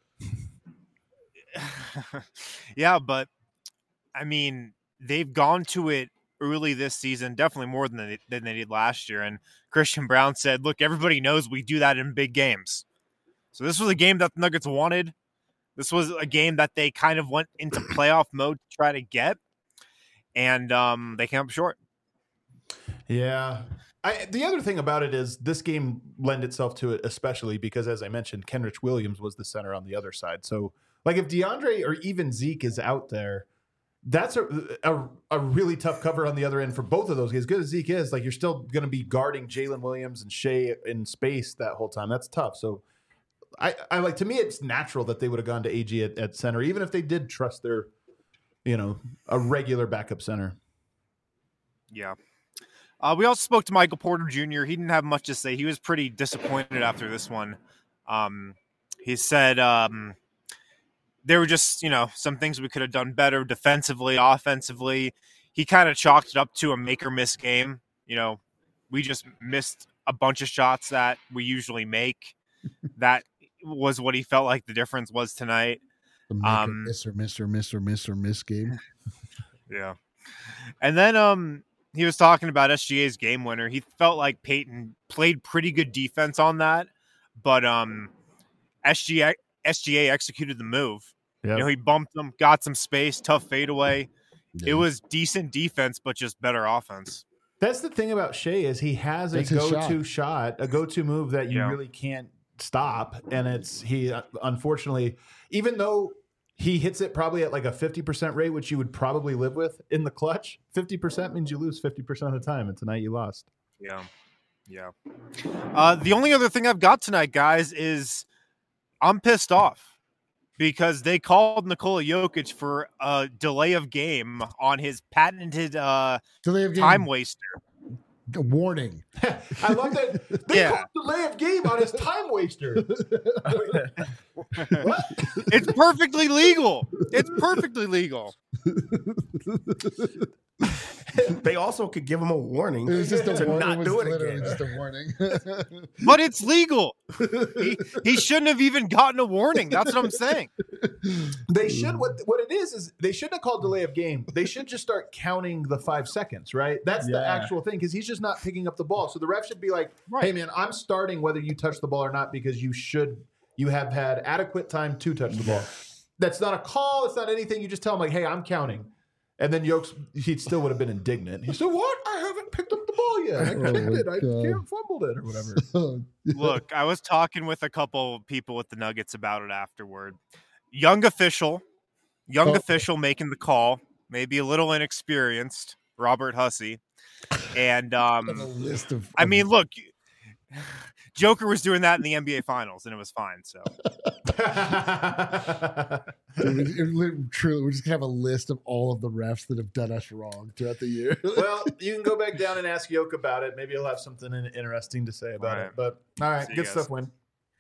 Yeah, but I mean, they've gone to it early this season, definitely more than they did last year. And Christian Braun said, look, everybody knows we do that in big games. So this was a game that the Nuggets wanted. This was a game that they kind of went into playoff mode to try to get. And they came up short. Yeah. The other thing about it is this game lent itself to it, especially because, as I mentioned, Kenrich Williams was the center on the other side. So, like, if DeAndre or even Zeke is out there, that's a really tough cover on the other end for both of those guys. As good as Zeke is, like, you're still going to be guarding Jalen Williams and Shea in space that whole time. That's tough. So, I like, to me, it's natural that they would have gone to AG at center, even if they did trust their, a regular backup center. Yeah. We also spoke to Michael Porter Jr. He didn't have much to say. He was pretty disappointed after this one. He said there were just, some things we could have done better defensively, offensively. He kind of chalked it up to a make or miss game. We just missed a bunch of shots that we usually make. That was what he felt like the difference was tonight. The make or miss game. Yeah. And then he was talking about SGA's game winner. He felt like Peyton played pretty good defense on that, but SGA executed the move. Yep. He bumped him, got some space, tough fadeaway. Yeah. It was decent defense, but just better offense. That's the thing about Shea is he has a go-to shot, a go-to move that you really can't stop. And he unfortunately, even though he hits it probably at like a 50% rate, which you would probably live with in the clutch. 50% means you lose 50% of the time, and tonight you lost. Yeah. The only other thing I've got tonight, guys, is I'm pissed off because they called Nikola Jokic for a delay of game on his patented time waster. Warning. I love that. They called delay of game on his time waster. What? It's perfectly legal. They also could give him a warning. It was just a warning. Not do it again. Just a warning. But it's legal. He shouldn't have even gotten a warning. That's what I'm saying. They should. What it is they shouldn't have called delay of game. They should just start counting the 5 seconds, right? That's the actual thing, because he's just not picking up the ball. So the ref should be like, hey, man, I'm starting whether you touch the ball or not because you have had adequate time to touch the ball. That's not a call. It's not anything. You just tell him, like, hey, I'm counting. And then he still would have been indignant. He said, what? I haven't picked up the ball yet. I kicked it. I can't fumbled it or whatever. Look, I was talking with a couple people with the Nuggets about it afterward. Young official making the call, maybe a little inexperienced, Robert Hussey. And I mean, look, Joker was doing that in the NBA Finals, and it was fine. So, truly, we're just gonna have a list of all of the refs that have done us wrong throughout the year. Well, you can go back down and ask Yoke about it. Maybe he'll have something interesting to say about it. But all right, good stuff, Win.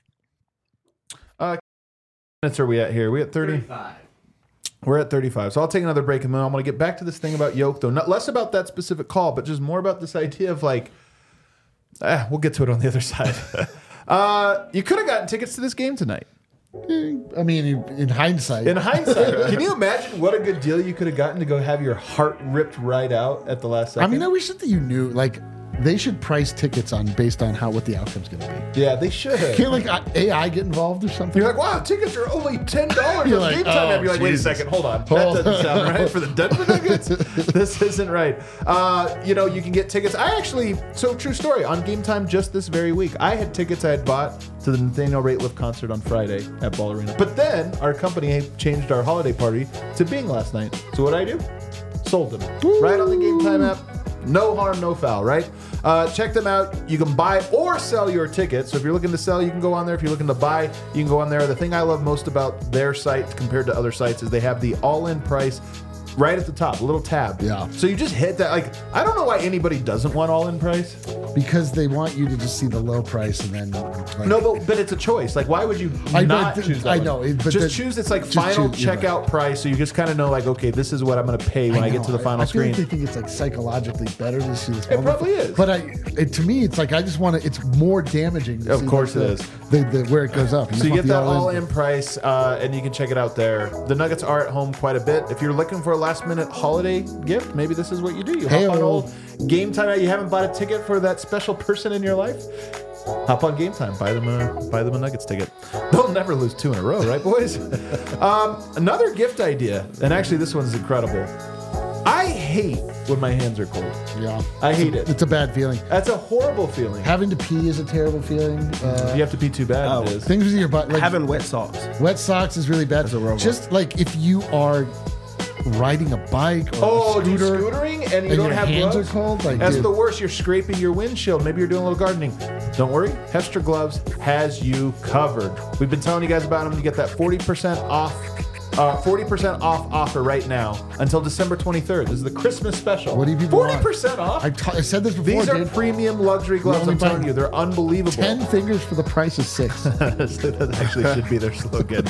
Minutes are we at here? We at 35. We're at 35. So I'll take another break, and then I'm going to get back to this thing about Yoke, though. Not less about that specific call, but just more about this idea of like. We'll get to it on the other side. You could have gotten tickets to this game tonight. I mean, in hindsight. Can you imagine what a good deal you could have gotten to go have your heart ripped right out at the last second? I mean, I wish that you knew, like, they should price tickets based on what the outcome's going to be. Yeah, they should. Can't like AI get involved or something? You're like, wow, tickets are only $10 You're on like, Game Time. oh, You're like, wait a Jesus. second, hold on. That doesn't sound right for the Denver Nuggets. This isn't right. You can get tickets. True story, on Game Time just this very week, I had tickets I had bought to the Nathaniel Rateliff concert on Friday at Ball Arena. But then our company changed our holiday party to Bing last night. So what I do? Sold them. Right on the Game Time app. No harm, no foul, right? Check them out. You can buy or sell your tickets. So if you're looking to sell, you can go on there. If you're looking to buy, you can go on there. The thing I love most about their site compared to other sites is they have the all-in price right at the top, a little tab. Yeah. So you just hit that. Like, I don't know why anybody doesn't want all-in price. Because they want you to just see the low price and then. Like, No, but it's a choice. Like, why would you not choose that? I one? know. But just choose it's like final checkout price, so you just kind of know, like, okay, this is what I'm going to pay when I get to the final screen. I feel like they think it's like psychologically better to see this. It probably is. But to me, it's like I just want to. It's more damaging. To Of see course like it is. where it goes up. So you get that all-in price, and you can check it out there. The Nuggets are at home quite a bit. If you're looking for a last-minute holiday gift, maybe this is what you do. You hop on old Game Time. You haven't bought a ticket for that special person in your life? Hop on Game Time. Buy them a Nuggets ticket. They'll never lose 2 in a row, right, boys? Another gift idea, and actually this one's incredible. I hate when my hands are cold. Yeah. I hate it. It's a bad feeling. That's a horrible feeling. Having to pee is a terrible feeling. You have to pee too bad. It is. Things with your butt. Like, Having wet socks. wet socks is really bad. That's a real Just like if you are riding a bike or a dude, scooter scootering and you and don't your have hands gloves? are cold. Like, That's dude, the worst. You're scraping your windshield. Maybe you're doing a little gardening. Don't worry. Hestra Gloves has you covered. We've been telling you guys about them. You get that 40% off. 40% off offer right now until December 23rd. This is the Christmas special. What do you people 40% off? I said this before. These are dude. premium luxury gloves. only I'm telling buy you, they're unbelievable. 10 fingers for the price of 6. That actually should be their slogan.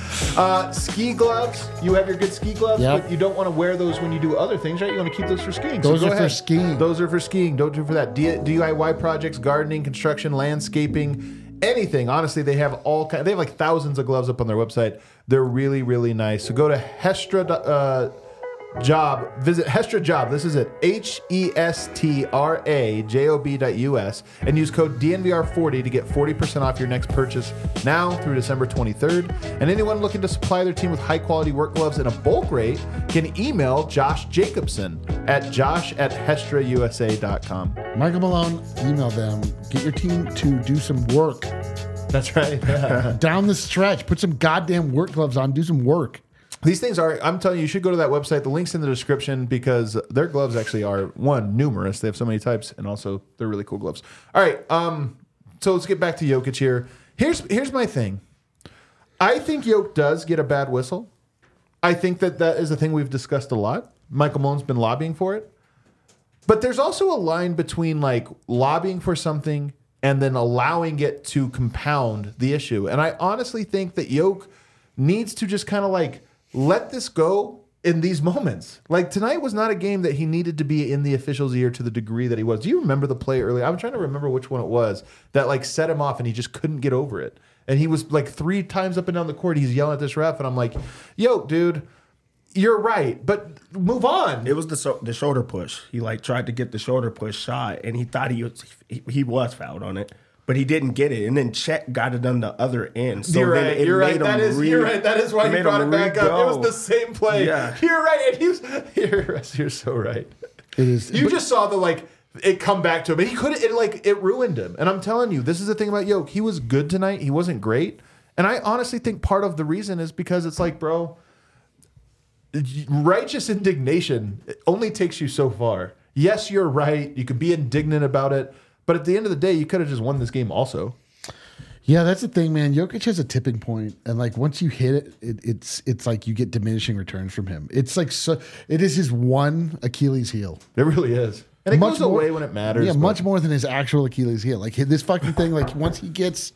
Ski gloves. You have your good ski gloves, Yep. but you don't want to wear those when you do other things, right? You want to keep those for skiing. Those go are for ahead. skiing. Those are for skiing. Don't do it for that. DIY projects, gardening, construction, landscaping, anything. Honestly, they have all kinds. They have like thousands of gloves up on their website. They're really, really nice. So go to Hestra Job. Visit Hestra Job. This is it. HESTRAJOB.US and use code DNVR40 to get 40% off your next purchase now through December 23rd. And anyone looking to supply their team with high quality work gloves in a bulk rate can email Josh Jacobson at josh@hestrausa.com. Michael Malone, email them. Get your team to do some work. That's right. Yeah. Down the stretch. Put some goddamn work gloves on. Do some work. These things are, I'm telling you, you should go to that website. The link's in the description because their gloves actually are, one, numerous. They have so many types, and also they're really cool gloves. All right, so let's get back to Jokic here. Here's my thing. I think Jokic does get a bad whistle. I think that is a thing we've discussed a lot. Michael Malone's been lobbying for it. But there's also a line between like lobbying for something and then allowing it to compound the issue. And I honestly think that Jokic needs to just kind of like let this go in these moments. Like tonight was not a game that he needed to be in the official's ear to the degree that he was. Do you remember the play earlier? I'm trying to remember which one it was that like set him off and he just couldn't get over it. And he was like 3 times up and down the court. He's yelling at this ref and I'm like, yo, dude, you're right, but move on. It was the shoulder push. He like tried to get the shoulder push shot and he thought he was fouled on it. But he didn't get it, and then Chet got it on the other end. So you're then right. it You're made right. him You're right. That is why you brought it back up. It was the same play. Yeah. You're right. And you're so right. It is. You just saw the like it come back to him, and he couldn't. It ruined him. And I'm telling you, this is the thing about Jokic. He was good tonight. He wasn't great, and I honestly think part of the reason is because it's like, bro, righteous indignation only takes you so far. Yes, you're right. You can be indignant about it, but at the end of the day, you could have just won this game also. Yeah, that's the thing, man. Jokic has a tipping point, and like once you hit it, it's like you get diminishing returns from him. It's like it is his one Achilles heel. It really is, and it goes away when it matters. Yeah, but much more than his actual Achilles heel. Like this fucking thing. Like he gets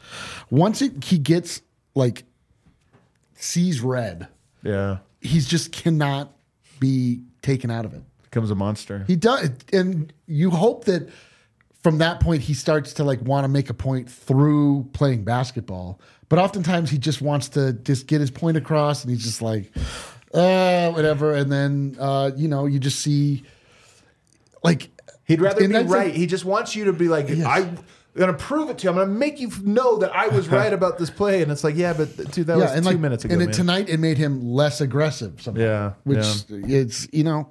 like sees red. Yeah, He's just cannot be taken out of it. becomes a monster. He does, and you hope that from that point he starts to like want to make a point through playing basketball. But oftentimes he just wants to just get his point across, and he's just like, whatever. And then you just see like he'd rather be right. He just wants you to be like, I'm going to prove it to you. I'm going to make you know that I was right about this play. And it's like, yeah, but dude, that was 2 minutes ago. And tonight it made him less aggressive somehow. Yeah. Which it's,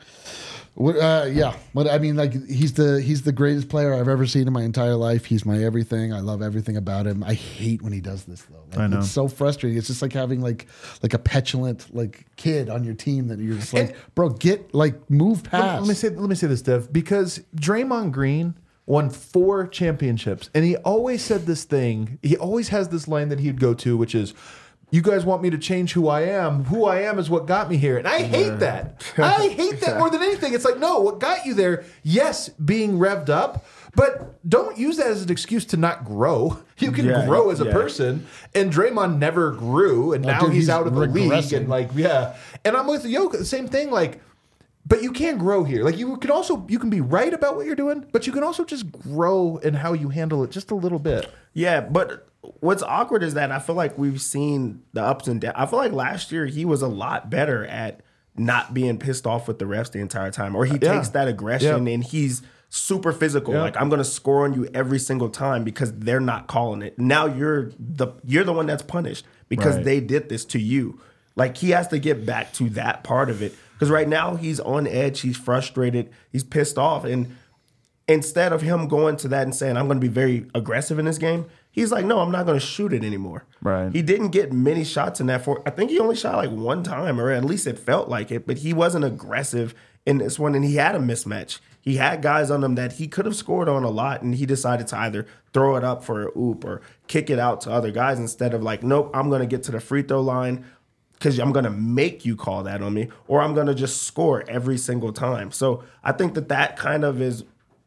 but I mean, like he's the greatest player I've ever seen in my entire life. He's my everything. I love everything about him. I hate when he does this though. Like, I know. It's so frustrating. It's just like having like a petulant like kid on your team that you're just like, bro, move past. Let me say this, Dev, because Draymond Green won 4 championships, and he always said this thing. He always has this line that he'd go to, which is, you guys want me to change who I am. Who I am is what got me here. And I hate that. I hate that more than anything. It's like, no, what got you there, yes, being revved up, but don't use that as an excuse to not grow. You can grow as a person. And Draymond never grew, and now he's out of the league. And and I'm with Jokic, the same thing, like, but you can grow here. Like you can be right about what you're doing, but you can also just grow in how you handle it just a little bit. Yeah, but what's awkward is that I feel like we've seen the ups and downs. I feel like last year he was a lot better at not being pissed off with the refs the entire time, or he takes that aggression and he's super physical. Like, I'm going to score on you every single time because they're not calling it. Now you're the one that's punished because they did this to you. Like, he has to get back to that part of it because right now he's on edge, he's frustrated, he's pissed off, and instead of him going to that and saying, I'm going to be very aggressive in this game, he's like, no, I'm not going to shoot it anymore. Right. He didn't get many shots in that. I think he only shot like one time, or at least it felt like it, but he wasn't aggressive in this one, and he had a mismatch. He had guys on him that he could have scored on a lot, and he decided to either throw it up for an oop or kick it out to other guys instead of like, nope, I'm going to get to the free throw line because I'm going to make you call that on me, or I'm going to just score every single time. So I think that kind of is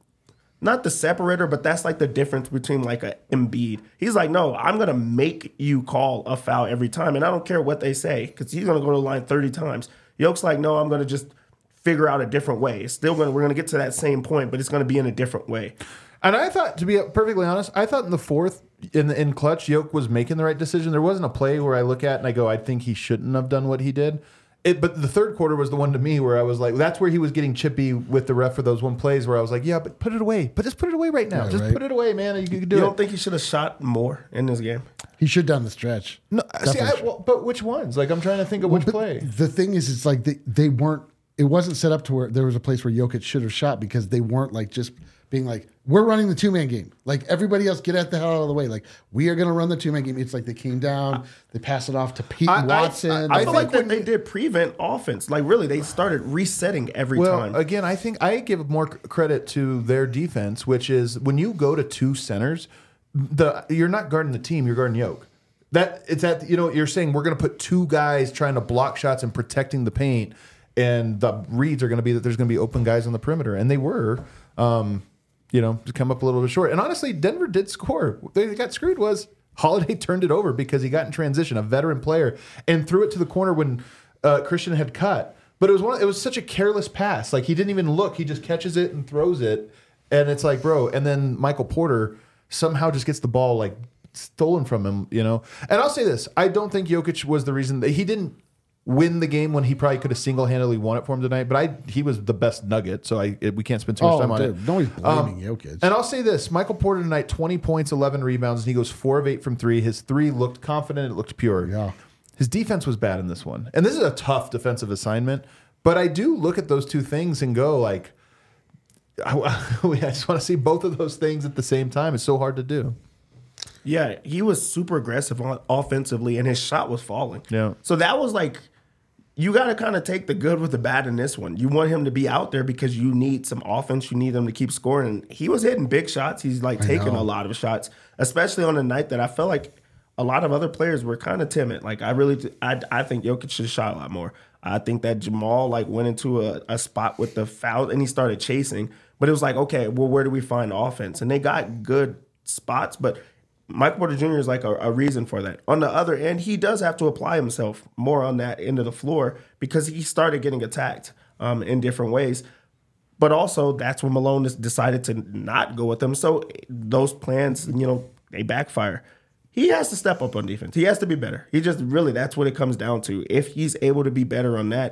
not the separator, but that's like the difference between like a Embiid. He's like, no, I'm going to make you call a foul every time, and I don't care what they say because he's going to go to the line 30 times. Yoke's like, no, I'm going to just figure out a different way. It's still we're going to get to that same point, but it's going to be in a different way. And I thought, to be perfectly honest, I thought in the fourth, in clutch, Yoke was making the right decision. There wasn't a play where I look at and I go, I think he shouldn't have done what he did. But the third quarter was the one to me where I was like, that's where he was getting chippy with the ref for those one plays where I was like, yeah, but put it away. But just put it away right now. Put it away, man. You can do it. You don't think he should have shot more in this game? He should down the stretch. No, but which ones? Like, I'm trying to think of which play. The thing is, it's like they weren't. It wasn't set up to where there was a place where Jokic should have shot because they weren't like just being like, we're running the 2-man game. Like, everybody else, get the hell out of the way. Like, we are going to run the 2-man game. It's like they came down, they passed it off to Pete Watson. I feel like when they did prevent offense, like really, they started resetting every time. Well, again, I think I give more credit to their defense, which is when you go to 2 centers, you're not guarding the team, you're guarding Yoke. You're saying we're going to put 2 guys trying to block shots and protecting the paint. And the reads are going to be that there's going to be open guys on the perimeter. And they were, to come up a little bit short. And honestly, Denver did score. They got screwed was Holiday turned it over because he got in transition, a veteran player, and threw it to the corner when Christian had cut. But it was such a careless pass. Like, he didn't even look. He just catches it and throws it. And it's like, bro. And then Michael Porter somehow just gets the ball, like, stolen from him, And I'll say this. I don't think Jokic was the reason that he didn't win the game when he probably could have single-handedly won it for him tonight, but he was the best Nugget, so we can't spend too much time on it. Nobody's blaming Jokic. And I'll say this, Michael Porter tonight, 20 points, 11 rebounds, and he goes 4 of 8 from 3. His 3 looked confident, it looked pure. Yeah. His defense was bad in this one. And this is a tough defensive assignment, but I do look at those 2 things and go, like, I just want to see both of those things at the same time. It's so hard to do. Yeah, he was super aggressive offensively, and his shot was falling. Yeah. So that was like, you got to kind of take the good with the bad in this one. You want him to be out there because you need some offense. You need him to keep scoring. And he was hitting big shots. He's like taking a lot of shots, especially on a night that I felt like a lot of other players were kind of timid. Like, I think Jokic should have shot a lot more. I think that Jamal like went into a spot with the foul and he started chasing. But it was like, okay, well, where do we find offense? And they got good spots, but Michael Porter Jr. is like a reason for that. On the other end, he does have to apply himself more on that end of the floor because he started getting attacked in different ways. But also, that's when Malone decided to not go with them. So those plans, they backfire. He has to step up on defense. He has to be better. He just really, that's what it comes down to. If he's able to be better on that,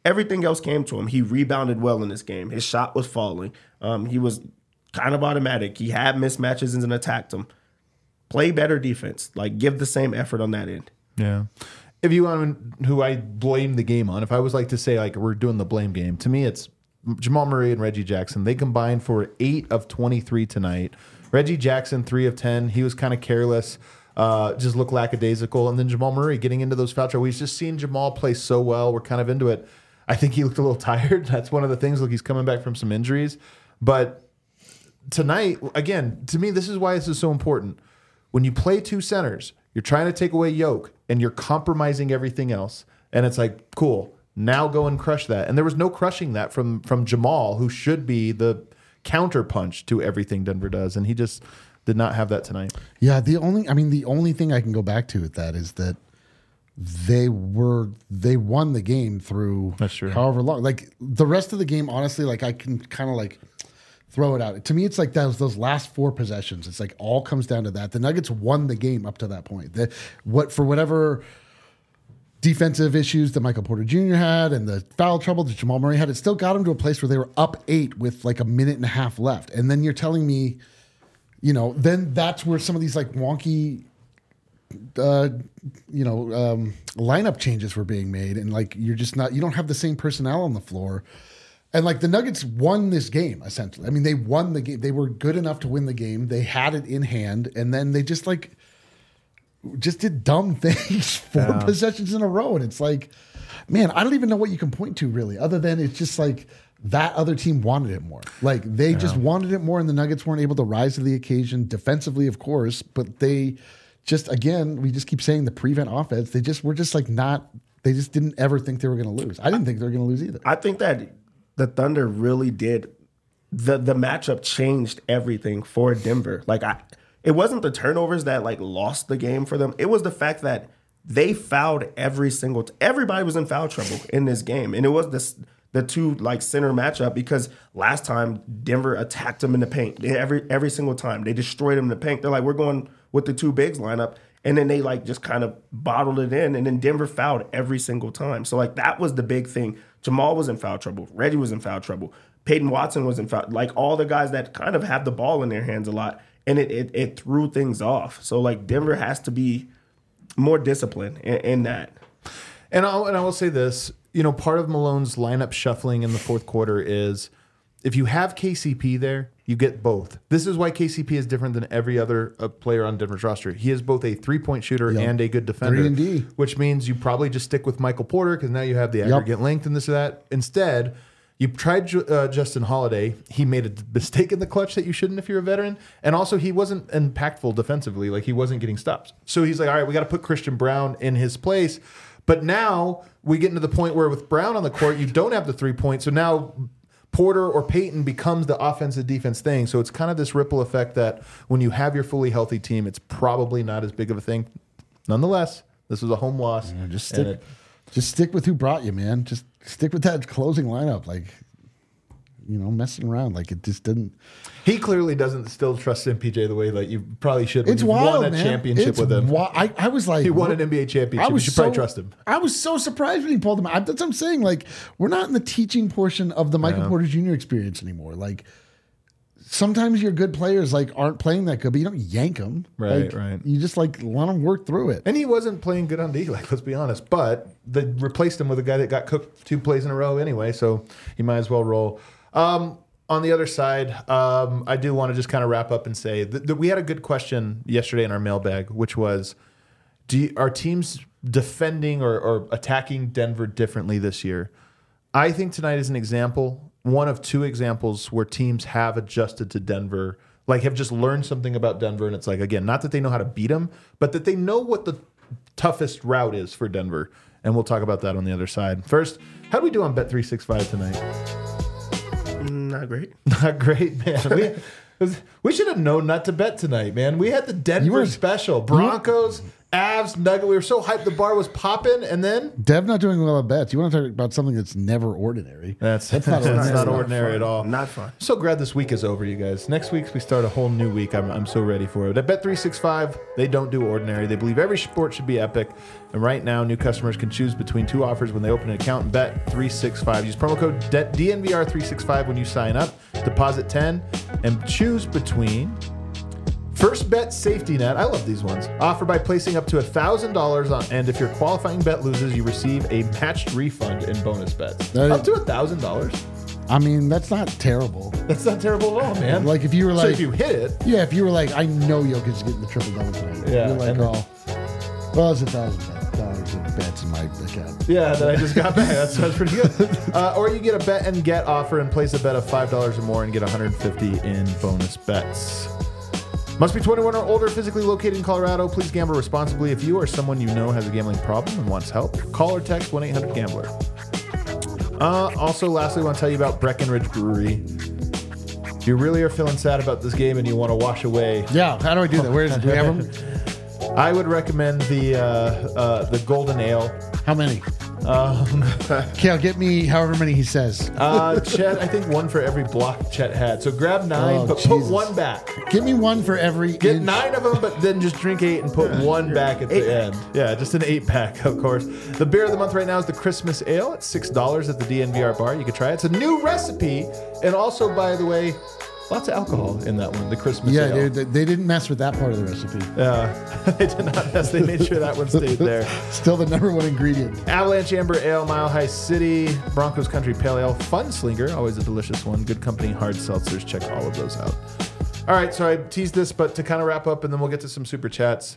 everything else came to him. He rebounded well in this game. His shot was falling. He was kind of automatic. He had mismatches and attacked them. Play better defense. Like, give the same effort on that end. Yeah. If you want who I blame the game on, if I was like to say, like, we're doing the blame game, to me it's Jamal Murray and Reggie Jackson. They combined for 8 of 23 tonight. Reggie Jackson, 3 of 10. He was kind of careless, just looked lackadaisical. And then Jamal Murray getting into those foul trouble. We've just seen Jamal play so well. We're kind of into it. I think he looked a little tired. That's one of the things. Look, he's coming back from some injuries. But tonight, again, to me, this is why this is so important. When you play 2 centers, you're trying to take away Yoke, and you're compromising everything else. And it's like, cool, now go and crush that. And there was no crushing that from Jamal, who should be the counterpunch to everything Denver does. And he just did not have that tonight. Yeah, the only thing I can go back to with that is that they won the game through however long. Like, the rest of the game, honestly, like, I can kind of like throw it out. To me, it's like those last 4 possessions. It's like all comes down to that. The Nuggets won the game up to that point. For whatever defensive issues that Michael Porter Jr. had and the foul trouble that Jamal Murray had, it still got them to a place where they were up 8 with like a minute and a half left. And then you're telling me, then that's where some of these like wonky, lineup changes were being made. And like, you don't have the same personnel on the floor. And like, the Nuggets won this game, essentially. I mean, they won the game. They were good enough to win the game. They had it in hand. And then they just did dumb things 4 possessions in a row. And it's like, man, I don't even know what you can point to really, other than it's just like that other team wanted it more. Like, they just wanted it more, and the Nuggets weren't able to rise to the occasion defensively, of course, but they just, again, we just keep saying the prevent offense. They just didn't ever think they were going to lose. I didn't think they were going to lose either. I think that the Thunder really did. The matchup changed everything for Denver. Like, it wasn't the turnovers that like lost the game for them. It was the fact that they fouled everybody was in foul trouble in this game, and it was the 2 like center matchup, because last time Denver attacked them in the paint every single time. They destroyed them in the paint. They're like, we're going with the 2 bigs lineup, and then they like just kind of bottled it in, and then Denver fouled every single time. So like, that was the big thing. Jamal was in foul trouble. Reggie was in foul trouble. Peyton Watson was in foul. Like, all the guys that kind of have the ball in their hands a lot, and it threw things off. So like, Denver has to be more disciplined in that. And I will say this, part of Malone's lineup shuffling in the 4th quarter is, if you have KCP there, you get both. This is why KCP is different than every other player on Denver's roster. He is both a 3-point shooter and a good defender, 3-and-D. Which means you probably just stick with Michael Porter, because now you have the aggregate length and this or that. Instead, you tried Justin Holiday. He made a mistake in the clutch that you shouldn't if you're a veteran. And also, he wasn't impactful defensively. Like, he wasn't getting stops. So he's like, all right, we got to put Christian Brown in his place. But now we get into the point where with Brown on the court, you don't have the 3-point. So now Porter or Peyton becomes the offensive defense thing. So it's kind of this ripple effect that when you have your fully healthy team, it's probably not as big of a thing. Nonetheless, this was a home loss. Yeah, just stick with who brought you, man. Just stick with that closing lineup. Like, messing around. Like, it just didn't. He clearly doesn't still trust MPJ the way that you probably should. It's wild, won a championship with him. I was like, he won an NBA championship. You should probably trust him. I was so surprised when he pulled him out. That's what I'm saying. Like, we're not in the teaching portion of the Michael Porter Jr. experience anymore. Like, sometimes your good players like aren't playing that good, but you don't yank them. Right. You just like let them work through it. And he wasn't playing good on D, like, let's be honest. But they replaced him with a guy that got cooked 2 plays in a row anyway, so he might as well roll. On the other side, I do want to just kind of wrap up and say that we had a good question yesterday in our mailbag, which was, are teams defending or attacking Denver differently this year? I think tonight is an example, one of 2 examples where teams have adjusted to Denver, like have just learned something about Denver. And it's like, again, not that they know how to beat them, but that they know what the toughest route is for Denver. And we'll talk about that on the other side. First, how do we do on Bet365 tonight? Not great. Not great, man. We should have known not to bet tonight, man. We had the Denver special. Broncos, Avs, Nugget. We were so hyped. The bar was popping, and then Dev not doing well at bets. You want to talk about something that's never ordinary? That's not ordinary at all. Not fun. So glad this week is over, you guys. Next week we start a whole new week. I'm so ready for it. At Bet365, they don't do ordinary. They believe every sport should be epic. And right now, new customers can choose between 2 offers when they open an account in Bet365. Use promo code DNVR365 when you sign up. Deposit 10 and choose between First Bet Safety Net. I love these ones. Offer by placing up to $1,000 on, and if your qualifying bet loses, you receive a matched refund in bonus bets. Up to $1,000. I mean, that's not terrible. That's not terrible at all, man. Like if you were like, so if you hit it, yeah. If you were like, I know Jokic is getting the triple double tonight. Yeah, You're like, well, it's $1,000 in bets in my account. Yeah, that I just got back. That sounds pretty good. Or you get a bet and get offer and place a bet of $5 or more and get $150 in bonus bets. Must be 21 or older, physically located in Colorado. Please gamble responsibly. If you or someone you know has a gambling problem and wants help, call or text 1-800-GAMBLER. Also, lastly, I want to tell you about Breckenridge Brewery. If you really are feeling sad about this game and you want to wash away... Yeah, how do I do that? Where is it? Do we have them? I would recommend the Golden Ale. How many? Kale, get me however many he says. Chet, I think 1 for every block Chet had. So grab 9, but put 1 back. Give me 1 for every. Get 9 of them, but then just drink 8 and put 1 back at the end. Yeah, just an 8-pack, of course. The beer of the month right now is the Christmas Ale. It's $6 at the DNVR bar. You can try it. It's a new recipe, and also, by the way, lots of alcohol in that one, the Christmas Ale. Yeah, they didn't mess with that part of the recipe. They did not mess. They made sure that one stayed there. Still the #1 ingredient. Avalanche Amber Ale, Mile High City, Broncos Country Pale Ale, Fun Slinger, always a delicious one. Good Company Hard Seltzers. Check all of those out. All right, so I teased this, but to kind of wrap up, and then we'll get to some super chats.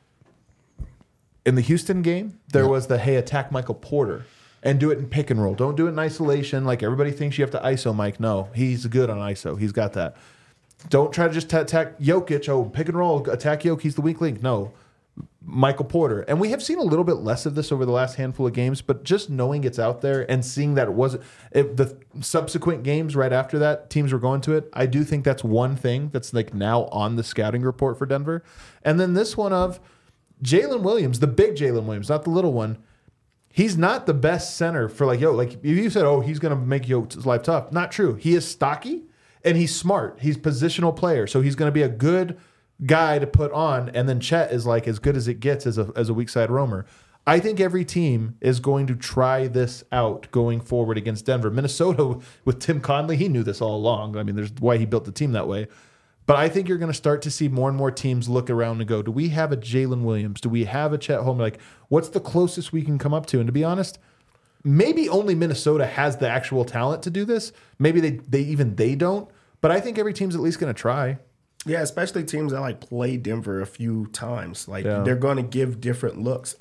In the Houston game, there was the, hey, attack Michael Porter. And do it in pick and roll. Don't do it in isolation. Like everybody thinks you have to ISO Mike. No, he's good on ISO. He's got that. Don't try to just attack Jokic. Oh, pick and roll, attack Jokic. He's the weak link. No, Michael Porter. And we have seen a little bit less of this over the last handful of games, but just knowing it's out there and seeing that the subsequent games right after that, teams were going to it. I do think that's one thing that's like now on the scouting report for Denver. And then this one of Jalen Williams, the big Jalen Williams, not the little one. He's not the best center for like if you said, oh, he's going to make Yoke's life tough. Not true. He is stocky and he's smart. He's a positional player. So he's going to be a good guy to put on. And then Chet is like as good as it gets as a weak side roamer. I think every team is going to try this out going forward against Denver. Minnesota with Tim Conley, he knew this all along. I mean, there's why he built the team that way. But I think you're going to start to see more and more teams look around and go, do we have a Jalen Williams? Do we have a Chet Holmgren? Like, what's the closest we can come up to? And to be honest, maybe only Minnesota has the actual talent to do this. Maybe they don't. But I think every team's at least going to try. Yeah, especially teams that like play Denver a few times. Like they're going to give different looks.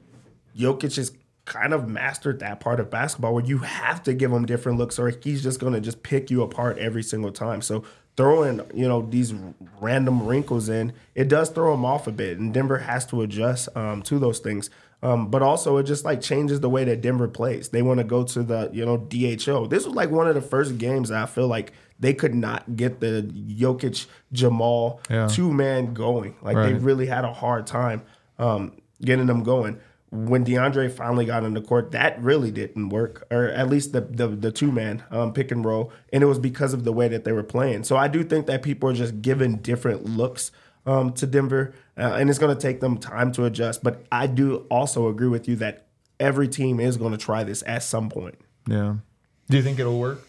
Jokic has kind of mastered that part of basketball where you have to give him different looks or he's just going to just pick you apart every single time. So throwing, these random wrinkles in, it does throw them off a bit, and Denver has to adjust to those things. But also, it just like changes the way that Denver plays. They want to go to the DHO. This was like one of the first games that I feel like they could not get the Jokic Jamal 2-man going. Like they really had a hard time getting them going. When DeAndre finally got on the court, that really didn't work, or at least the 2-man pick and roll, and it was because of the way that they were playing. So I do think that people are just giving different looks to Denver, and it's going to take them time to adjust. But I do also agree with you that every team is going to try this at some point. Yeah. Do you think it'll work?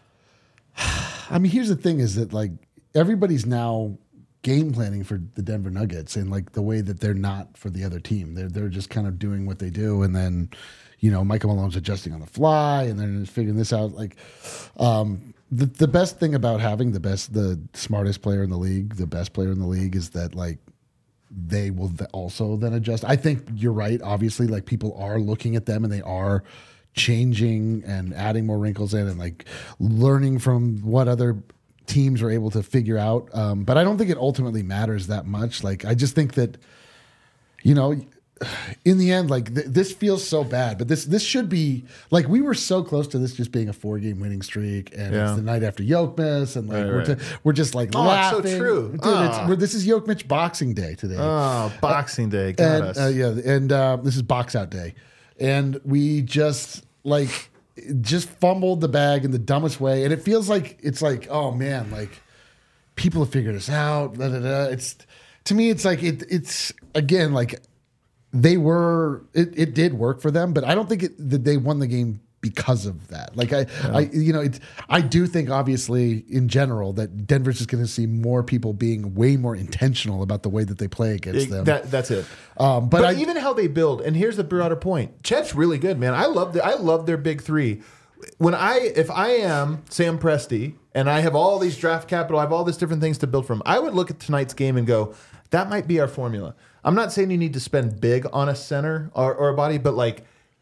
I mean, here's the thing: is that like everybody's now game planning for the Denver Nuggets and like the way that they're not for the other team. They're just kind of doing what they do, and then Michael Malone's adjusting on the fly, and then figuring this out. Like the best thing about having the smartest player in the league, the best player in the league, is that like they will also then adjust. I think you're right. Obviously, like people are looking at them and they are changing and adding more wrinkles in and like learning from what other teams are able to figure out. But I don't think it ultimately matters that much. Like, I just think that, in the end, like this feels so bad, but this should be like we were so close to this just being a 4-game winning streak, and it's the night after Yoke-Miss, and like we're just like laughing. It's so true, dude. This is Yoke-Mitch Boxing Day today. Oh, Boxing Day, got us. This is Box Out Day, and we just fumbled the bag in the dumbest way, and it feels like it's like, oh man, like people have figured us out. It's to me, it's like it's again like. It did work for them, but I don't think that they won the game because of that. Like I do think obviously in general that Denver's just going to see more people being way more intentional about the way that they play against them. That's it. But even how they build, and here's the broader point. Chet's really good, man. I love their big three. If I am Sam Presti and I have all these draft capital, I have all these different things to build from, I would look at tonight's game and go, that might be our formula. I'm not saying you need to spend big on a center or a body, but like,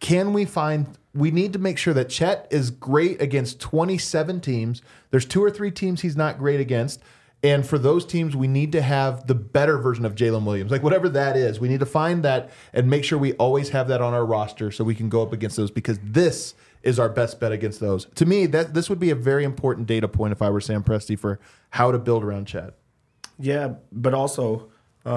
we need to make sure that Chet is great against 27 teams. There's 2 or 3 teams he's not great against. And for those teams, we need to have the better version of Jalen Williams. Like whatever that is, we need to find that and make sure we always have that on our roster so we can go up against those, because this is our best bet against those. To me, this would be a very important data point if I were Sam Presti for how to build around Chet. Yeah, but also...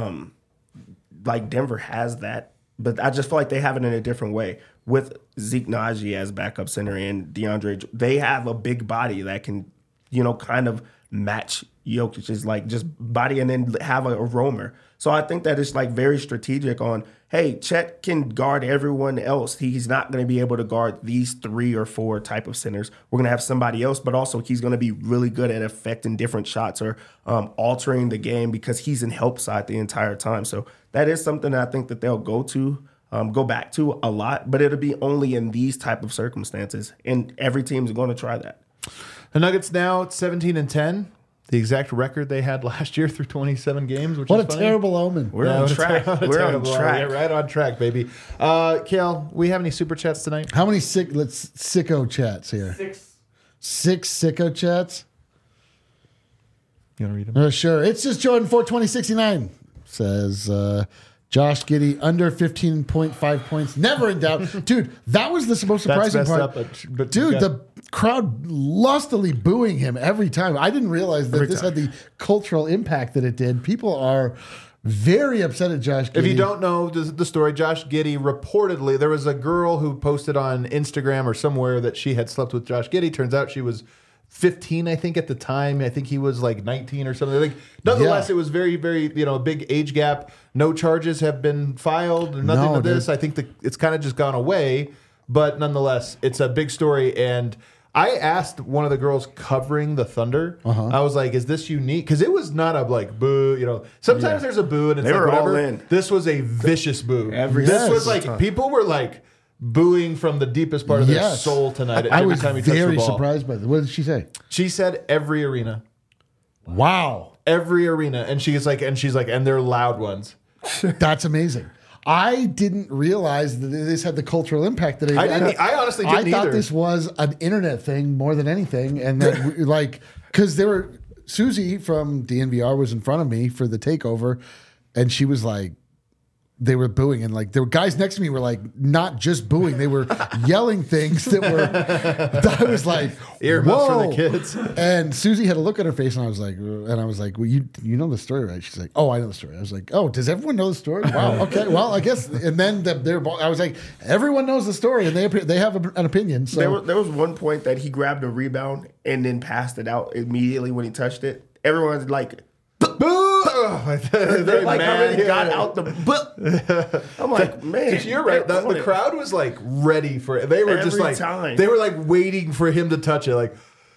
like Denver has that, but I just feel like they have it in a different way with Zeke Naji as backup center and DeAndre. They have a big body that can, kind of match Jokic's like just body and then have a roamer. So I think that it's like very strategic on, hey, Chet can guard everyone else. He's not going to be able to guard these 3 or 4 type of centers. We're going to have somebody else, but also he's going to be really good at affecting different shots or altering the game because he's in help side the entire time. So that is something that I think that they'll go back to a lot, but it'll be only in these type of circumstances, and every team's going to try that. The Nuggets now at 17-10. The exact record they had last year through 27 games. Which what is a funny. terrible omen. We're on track. We're on track. Yeah, right on track, baby. Kale, we have any super chats tonight? How many sicko chats here? 6 sicko chats? You want to read them? Sure. It's just Jordan 42069 says Josh Giddey under 15.5 points. Never in doubt. Dude, that was the most surprising part. But dude, the crowd lustily booing him every time. I didn't realize that this had the cultural impact that it did. People are very upset at Josh Giddey. If you don't know the story, Josh Giddey reportedly, there was a girl who posted on Instagram or somewhere that she had slept with Josh Giddey. Turns out she was 15, I think, at the time. I think he was like 19 or something. Like, nonetheless, it was very, very, big age gap. No charges have been filed. Nothing of this. I think it's kind of just gone away. But nonetheless, it's a big story. And I asked one of the girls covering the Thunder. I was like, is this unique? Because it was not a like boo, Sometimes there's a boo and it's they like were whatever. All in. This was a vicious boo. This was like, people were like booing from the deepest part of their soul tonight. I was time he touched the very ball. surprised by that. What did she say? She said every arena. Wow. Every arena. And she's like, and they're loud ones. That's amazing. I didn't realize that this had the cultural impact that it had. I honestly didn't either. I thought this was an internet thing more than anything. And that, because Susie from DNVR was in front of me for the takeover, and she was like, they were booing, and like there were guys next to me were like not just booing, they were yelling things that were. I was like, earmuffs for the kids. And Susie had a look on her face, and I was like, well, you know the story, right? She's like, oh, I know the story. I was like, oh, does everyone know the story? Wow, okay, well, I guess. And then I was like, everyone knows the story, and they have an opinion. So there was one point that he grabbed a rebound and then passed it out immediately when he touched it. Everyone's like, boo! They like already got out the. I'm like, man, you're right. The crowd was like ready for it. They were just like they were like waiting for him to touch it. Like,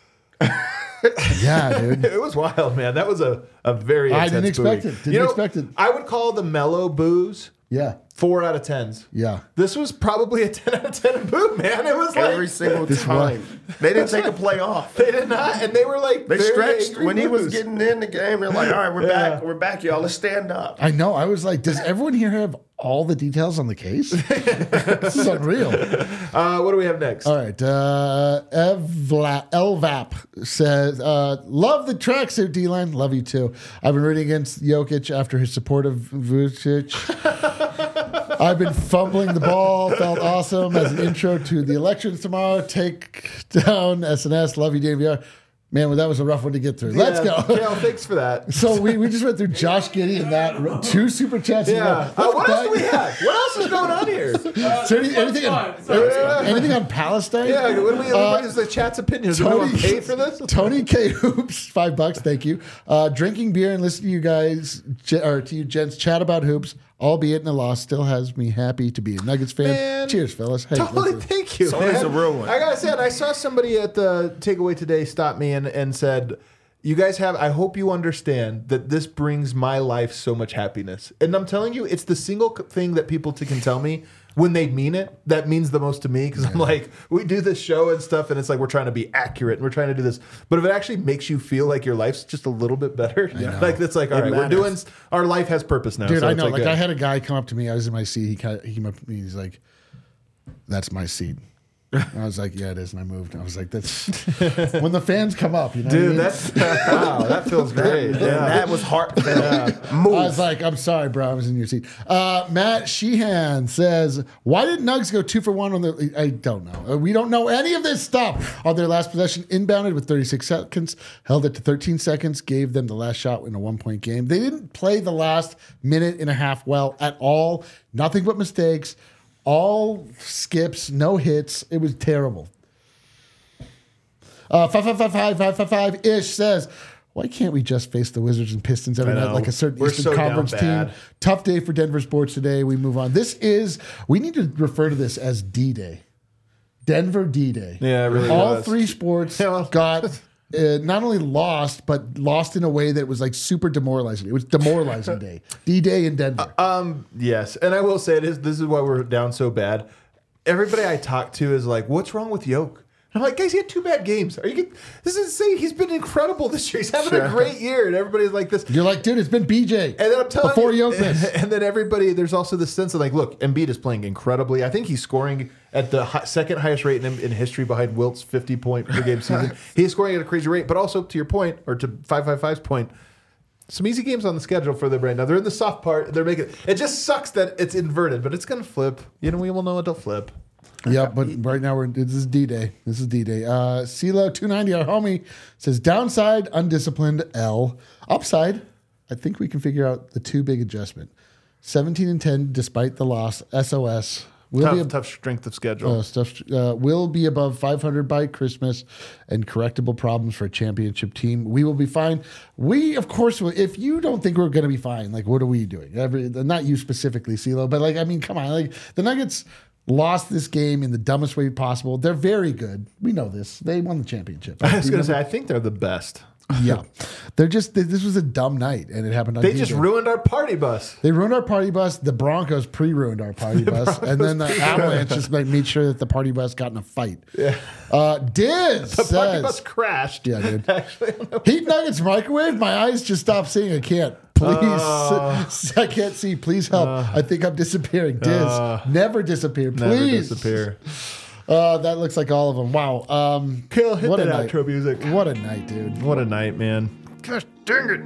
yeah, dude, it was wild, man. That was a very. I didn't expect it. Didn't expect it. I would call the mellow boos. Yeah. 4 out of 10s. Yeah. This was probably a 10 out of 10 boo, man. It was every single time. They didn't take a play off. They did not. And they were like, they stretched when he was getting in the game. They're like, all right, we're back. We're back, y'all. Let's stand up. I know. I was like, does everyone here have all the details on the case? This is unreal. What do we have next? All right. Elvap says, love the tracksuit, D-line. Love you too. I've been rooting against Jokic after his support of Vucic. I've been fumbling the ball. Felt awesome as an intro to the elections tomorrow. Take down SNS. Love you, DVR. Man, well, that was a rough one to get through. Let's go. Kale, thanks for that. So we just went through Josh Giddey and that 2 super chats. Yeah. What else do we have? What else is going on here? So anything on Palestine? Yeah. What is the chat's opinion? Do we want to pay for this? Tony K. Hoops, $5. Thank you. Drinking beer and listening to you guys, or to you gents, chat about hoops, albeit in a loss, still has me happy to be a Nuggets fan. Man, cheers, fellas. Hey, totally, thank you. It's always a real one. I gotta say, I saw somebody at the takeaway today stop me and said, "You guys have. I hope you understand that this brings my life so much happiness." And I'm telling you, it's the single thing that people can tell me when they mean it. That means the most to me because I'm like, we do this show and stuff, and it's like we're trying to be accurate and we're trying to do this. But if it actually makes you feel like your life's just a little bit better, like it's like, all right, we're doing. Our life has purpose now. Dude, so I know. Like I had a guy come up to me. I was in my seat. He came up to me. He's like, "That's my seat." I was like, "Yeah, it is," and I moved. I was like, "That's when the fans come up, you know." Dude, what I mean? that's wow. That feels great. Yeah, That was heartfelt. Move. I was like, "I'm sorry, bro. I was in your seat." Matt Sheehan says, "Why did Nugs go 2 for 1 on the?" I don't know. We don't know any of this stuff. On their last possession, inbounded with 36 seconds, held it to 13 seconds, gave them the last shot in a 1-point game. They didn't play the last minute and a half well at all. Nothing but mistakes. All skips, no hits. It was terrible. 555-555-ish says, "Why can't we just face the Wizards and Pistons every night like a certain Eastern Conference team?" Tough day for Denver sports today. We move on. We need to refer to this as D-Day. Denver D-Day. Yeah, it really All was. 3 sports got not only lost, but lost in a way that was like super demoralizing. It was demoralizing day. D-Day in Denver. Yes, and I will say this is why we're down so bad. Everybody I talk to is like, "What's wrong with Yoke?" I'm like, "Guys, he had 2 bad games. This is insane. He's been incredible this year. He's having a great year." And everybody's like this. You're like, "Dude, it's been BJ." And then I'm telling before you, Jokic. and then everybody, there's also this sense of like, look, Embiid is playing incredibly. I think he's scoring at the second hilest rate in history behind Wilt's 50-point per game season. He's scoring at a crazy rate, but also to your point, or to 555's point, some easy games on the schedule for them right now. They're in the soft part. They're making it just sucks that it's inverted, but it's gonna flip. You know, we will know it'll flip. Yeah, but right now this is D-Day. This is D-Day. CeeLo 290, our homie, says downside, undisciplined, L. Upside, I think we can figure out the 2 big adjustment. 17-10 despite the loss. SOS. Tough strength of schedule. Will be above 500 by Christmas and correctable problems for a championship team. We will be fine. We, of course, will. If you don't think we're going to be fine, like, what are we doing? Not you specifically, CeeLo, but like, I mean, come on. Like, the Nuggets lost this game in the dumbest way possible. They're very good. We know this. They won the championship. I was going to say, I think they're the best. Yeah. This was a dumb night, and it happened on They just ruined our party bus. They ruined our party bus. The Broncos pre-ruined our party bus. And then the Avalanche just made sure that the party bus got in a fight. Yeah. Diz The says, party bus crashed. Yeah, dude. Heat Nuggets microwave? My eyes just stopped seeing. I can't. Please. I can't see. Please help. I think I'm disappearing. Diz, never disappear. Please. Never disappear. That looks like all of them. Wow. Kill, hit what that a night. outro music. What a night, dude. What a night, man. Gosh dang it.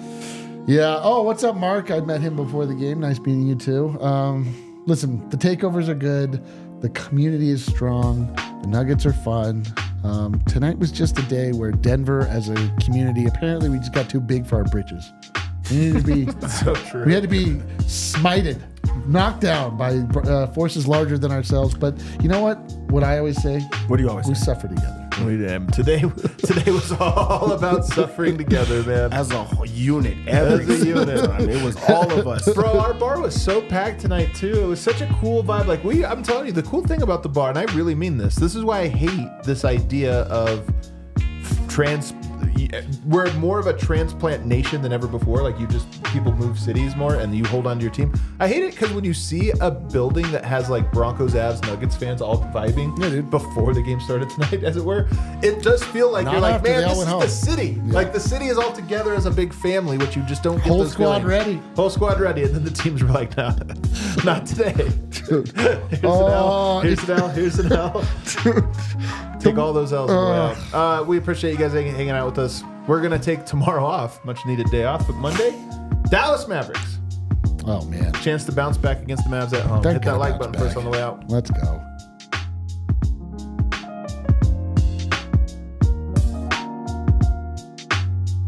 Yeah. Oh, what's up, Mark? I met him before the game. Nice meeting you too. Listen, the takeovers are good. The community is strong. The Nuggets are fun. Tonight was just a day where Denver, as a community, apparently we just got too big for our britches. We needed to be So true. We had to be smited, knocked down by forces larger than ourselves. But you know what? What I always say? What do you always We say? suffer together. We did. Today was all about suffering together, man. As a whole unit, every unit. I mean, it was all of us. Bro, our bar was so packed tonight too. It was such a cool vibe. Like I'm telling you, the cool thing about the bar, and I really mean this. This is why I hate this idea of we're more of a transplant nation than ever before. Like people move cities more and you hold on to your team. I hate it because when you see a building that has like Broncos, Avs, Nuggets fans all vibing before the game started tonight, as it were, it does feel like you're like, man, this is the city. Yeah. Like the city is all together as a big family, which you just don't get. Whole squad ready. Whole squad ready. And then the teams were like, nah, not today. Dude. Here's an L. Here's an L. Take all those L's away. We appreciate you guys hanging out with us. We're going to take tomorrow off. Much needed day off. But Monday, Dallas Mavericks. Oh, man. Chance to bounce back against the Mavs at home. Hit that like button first on the way out. Let's go.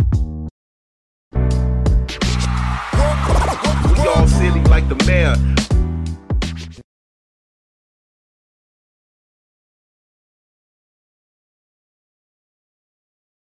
We all silly like the mayor.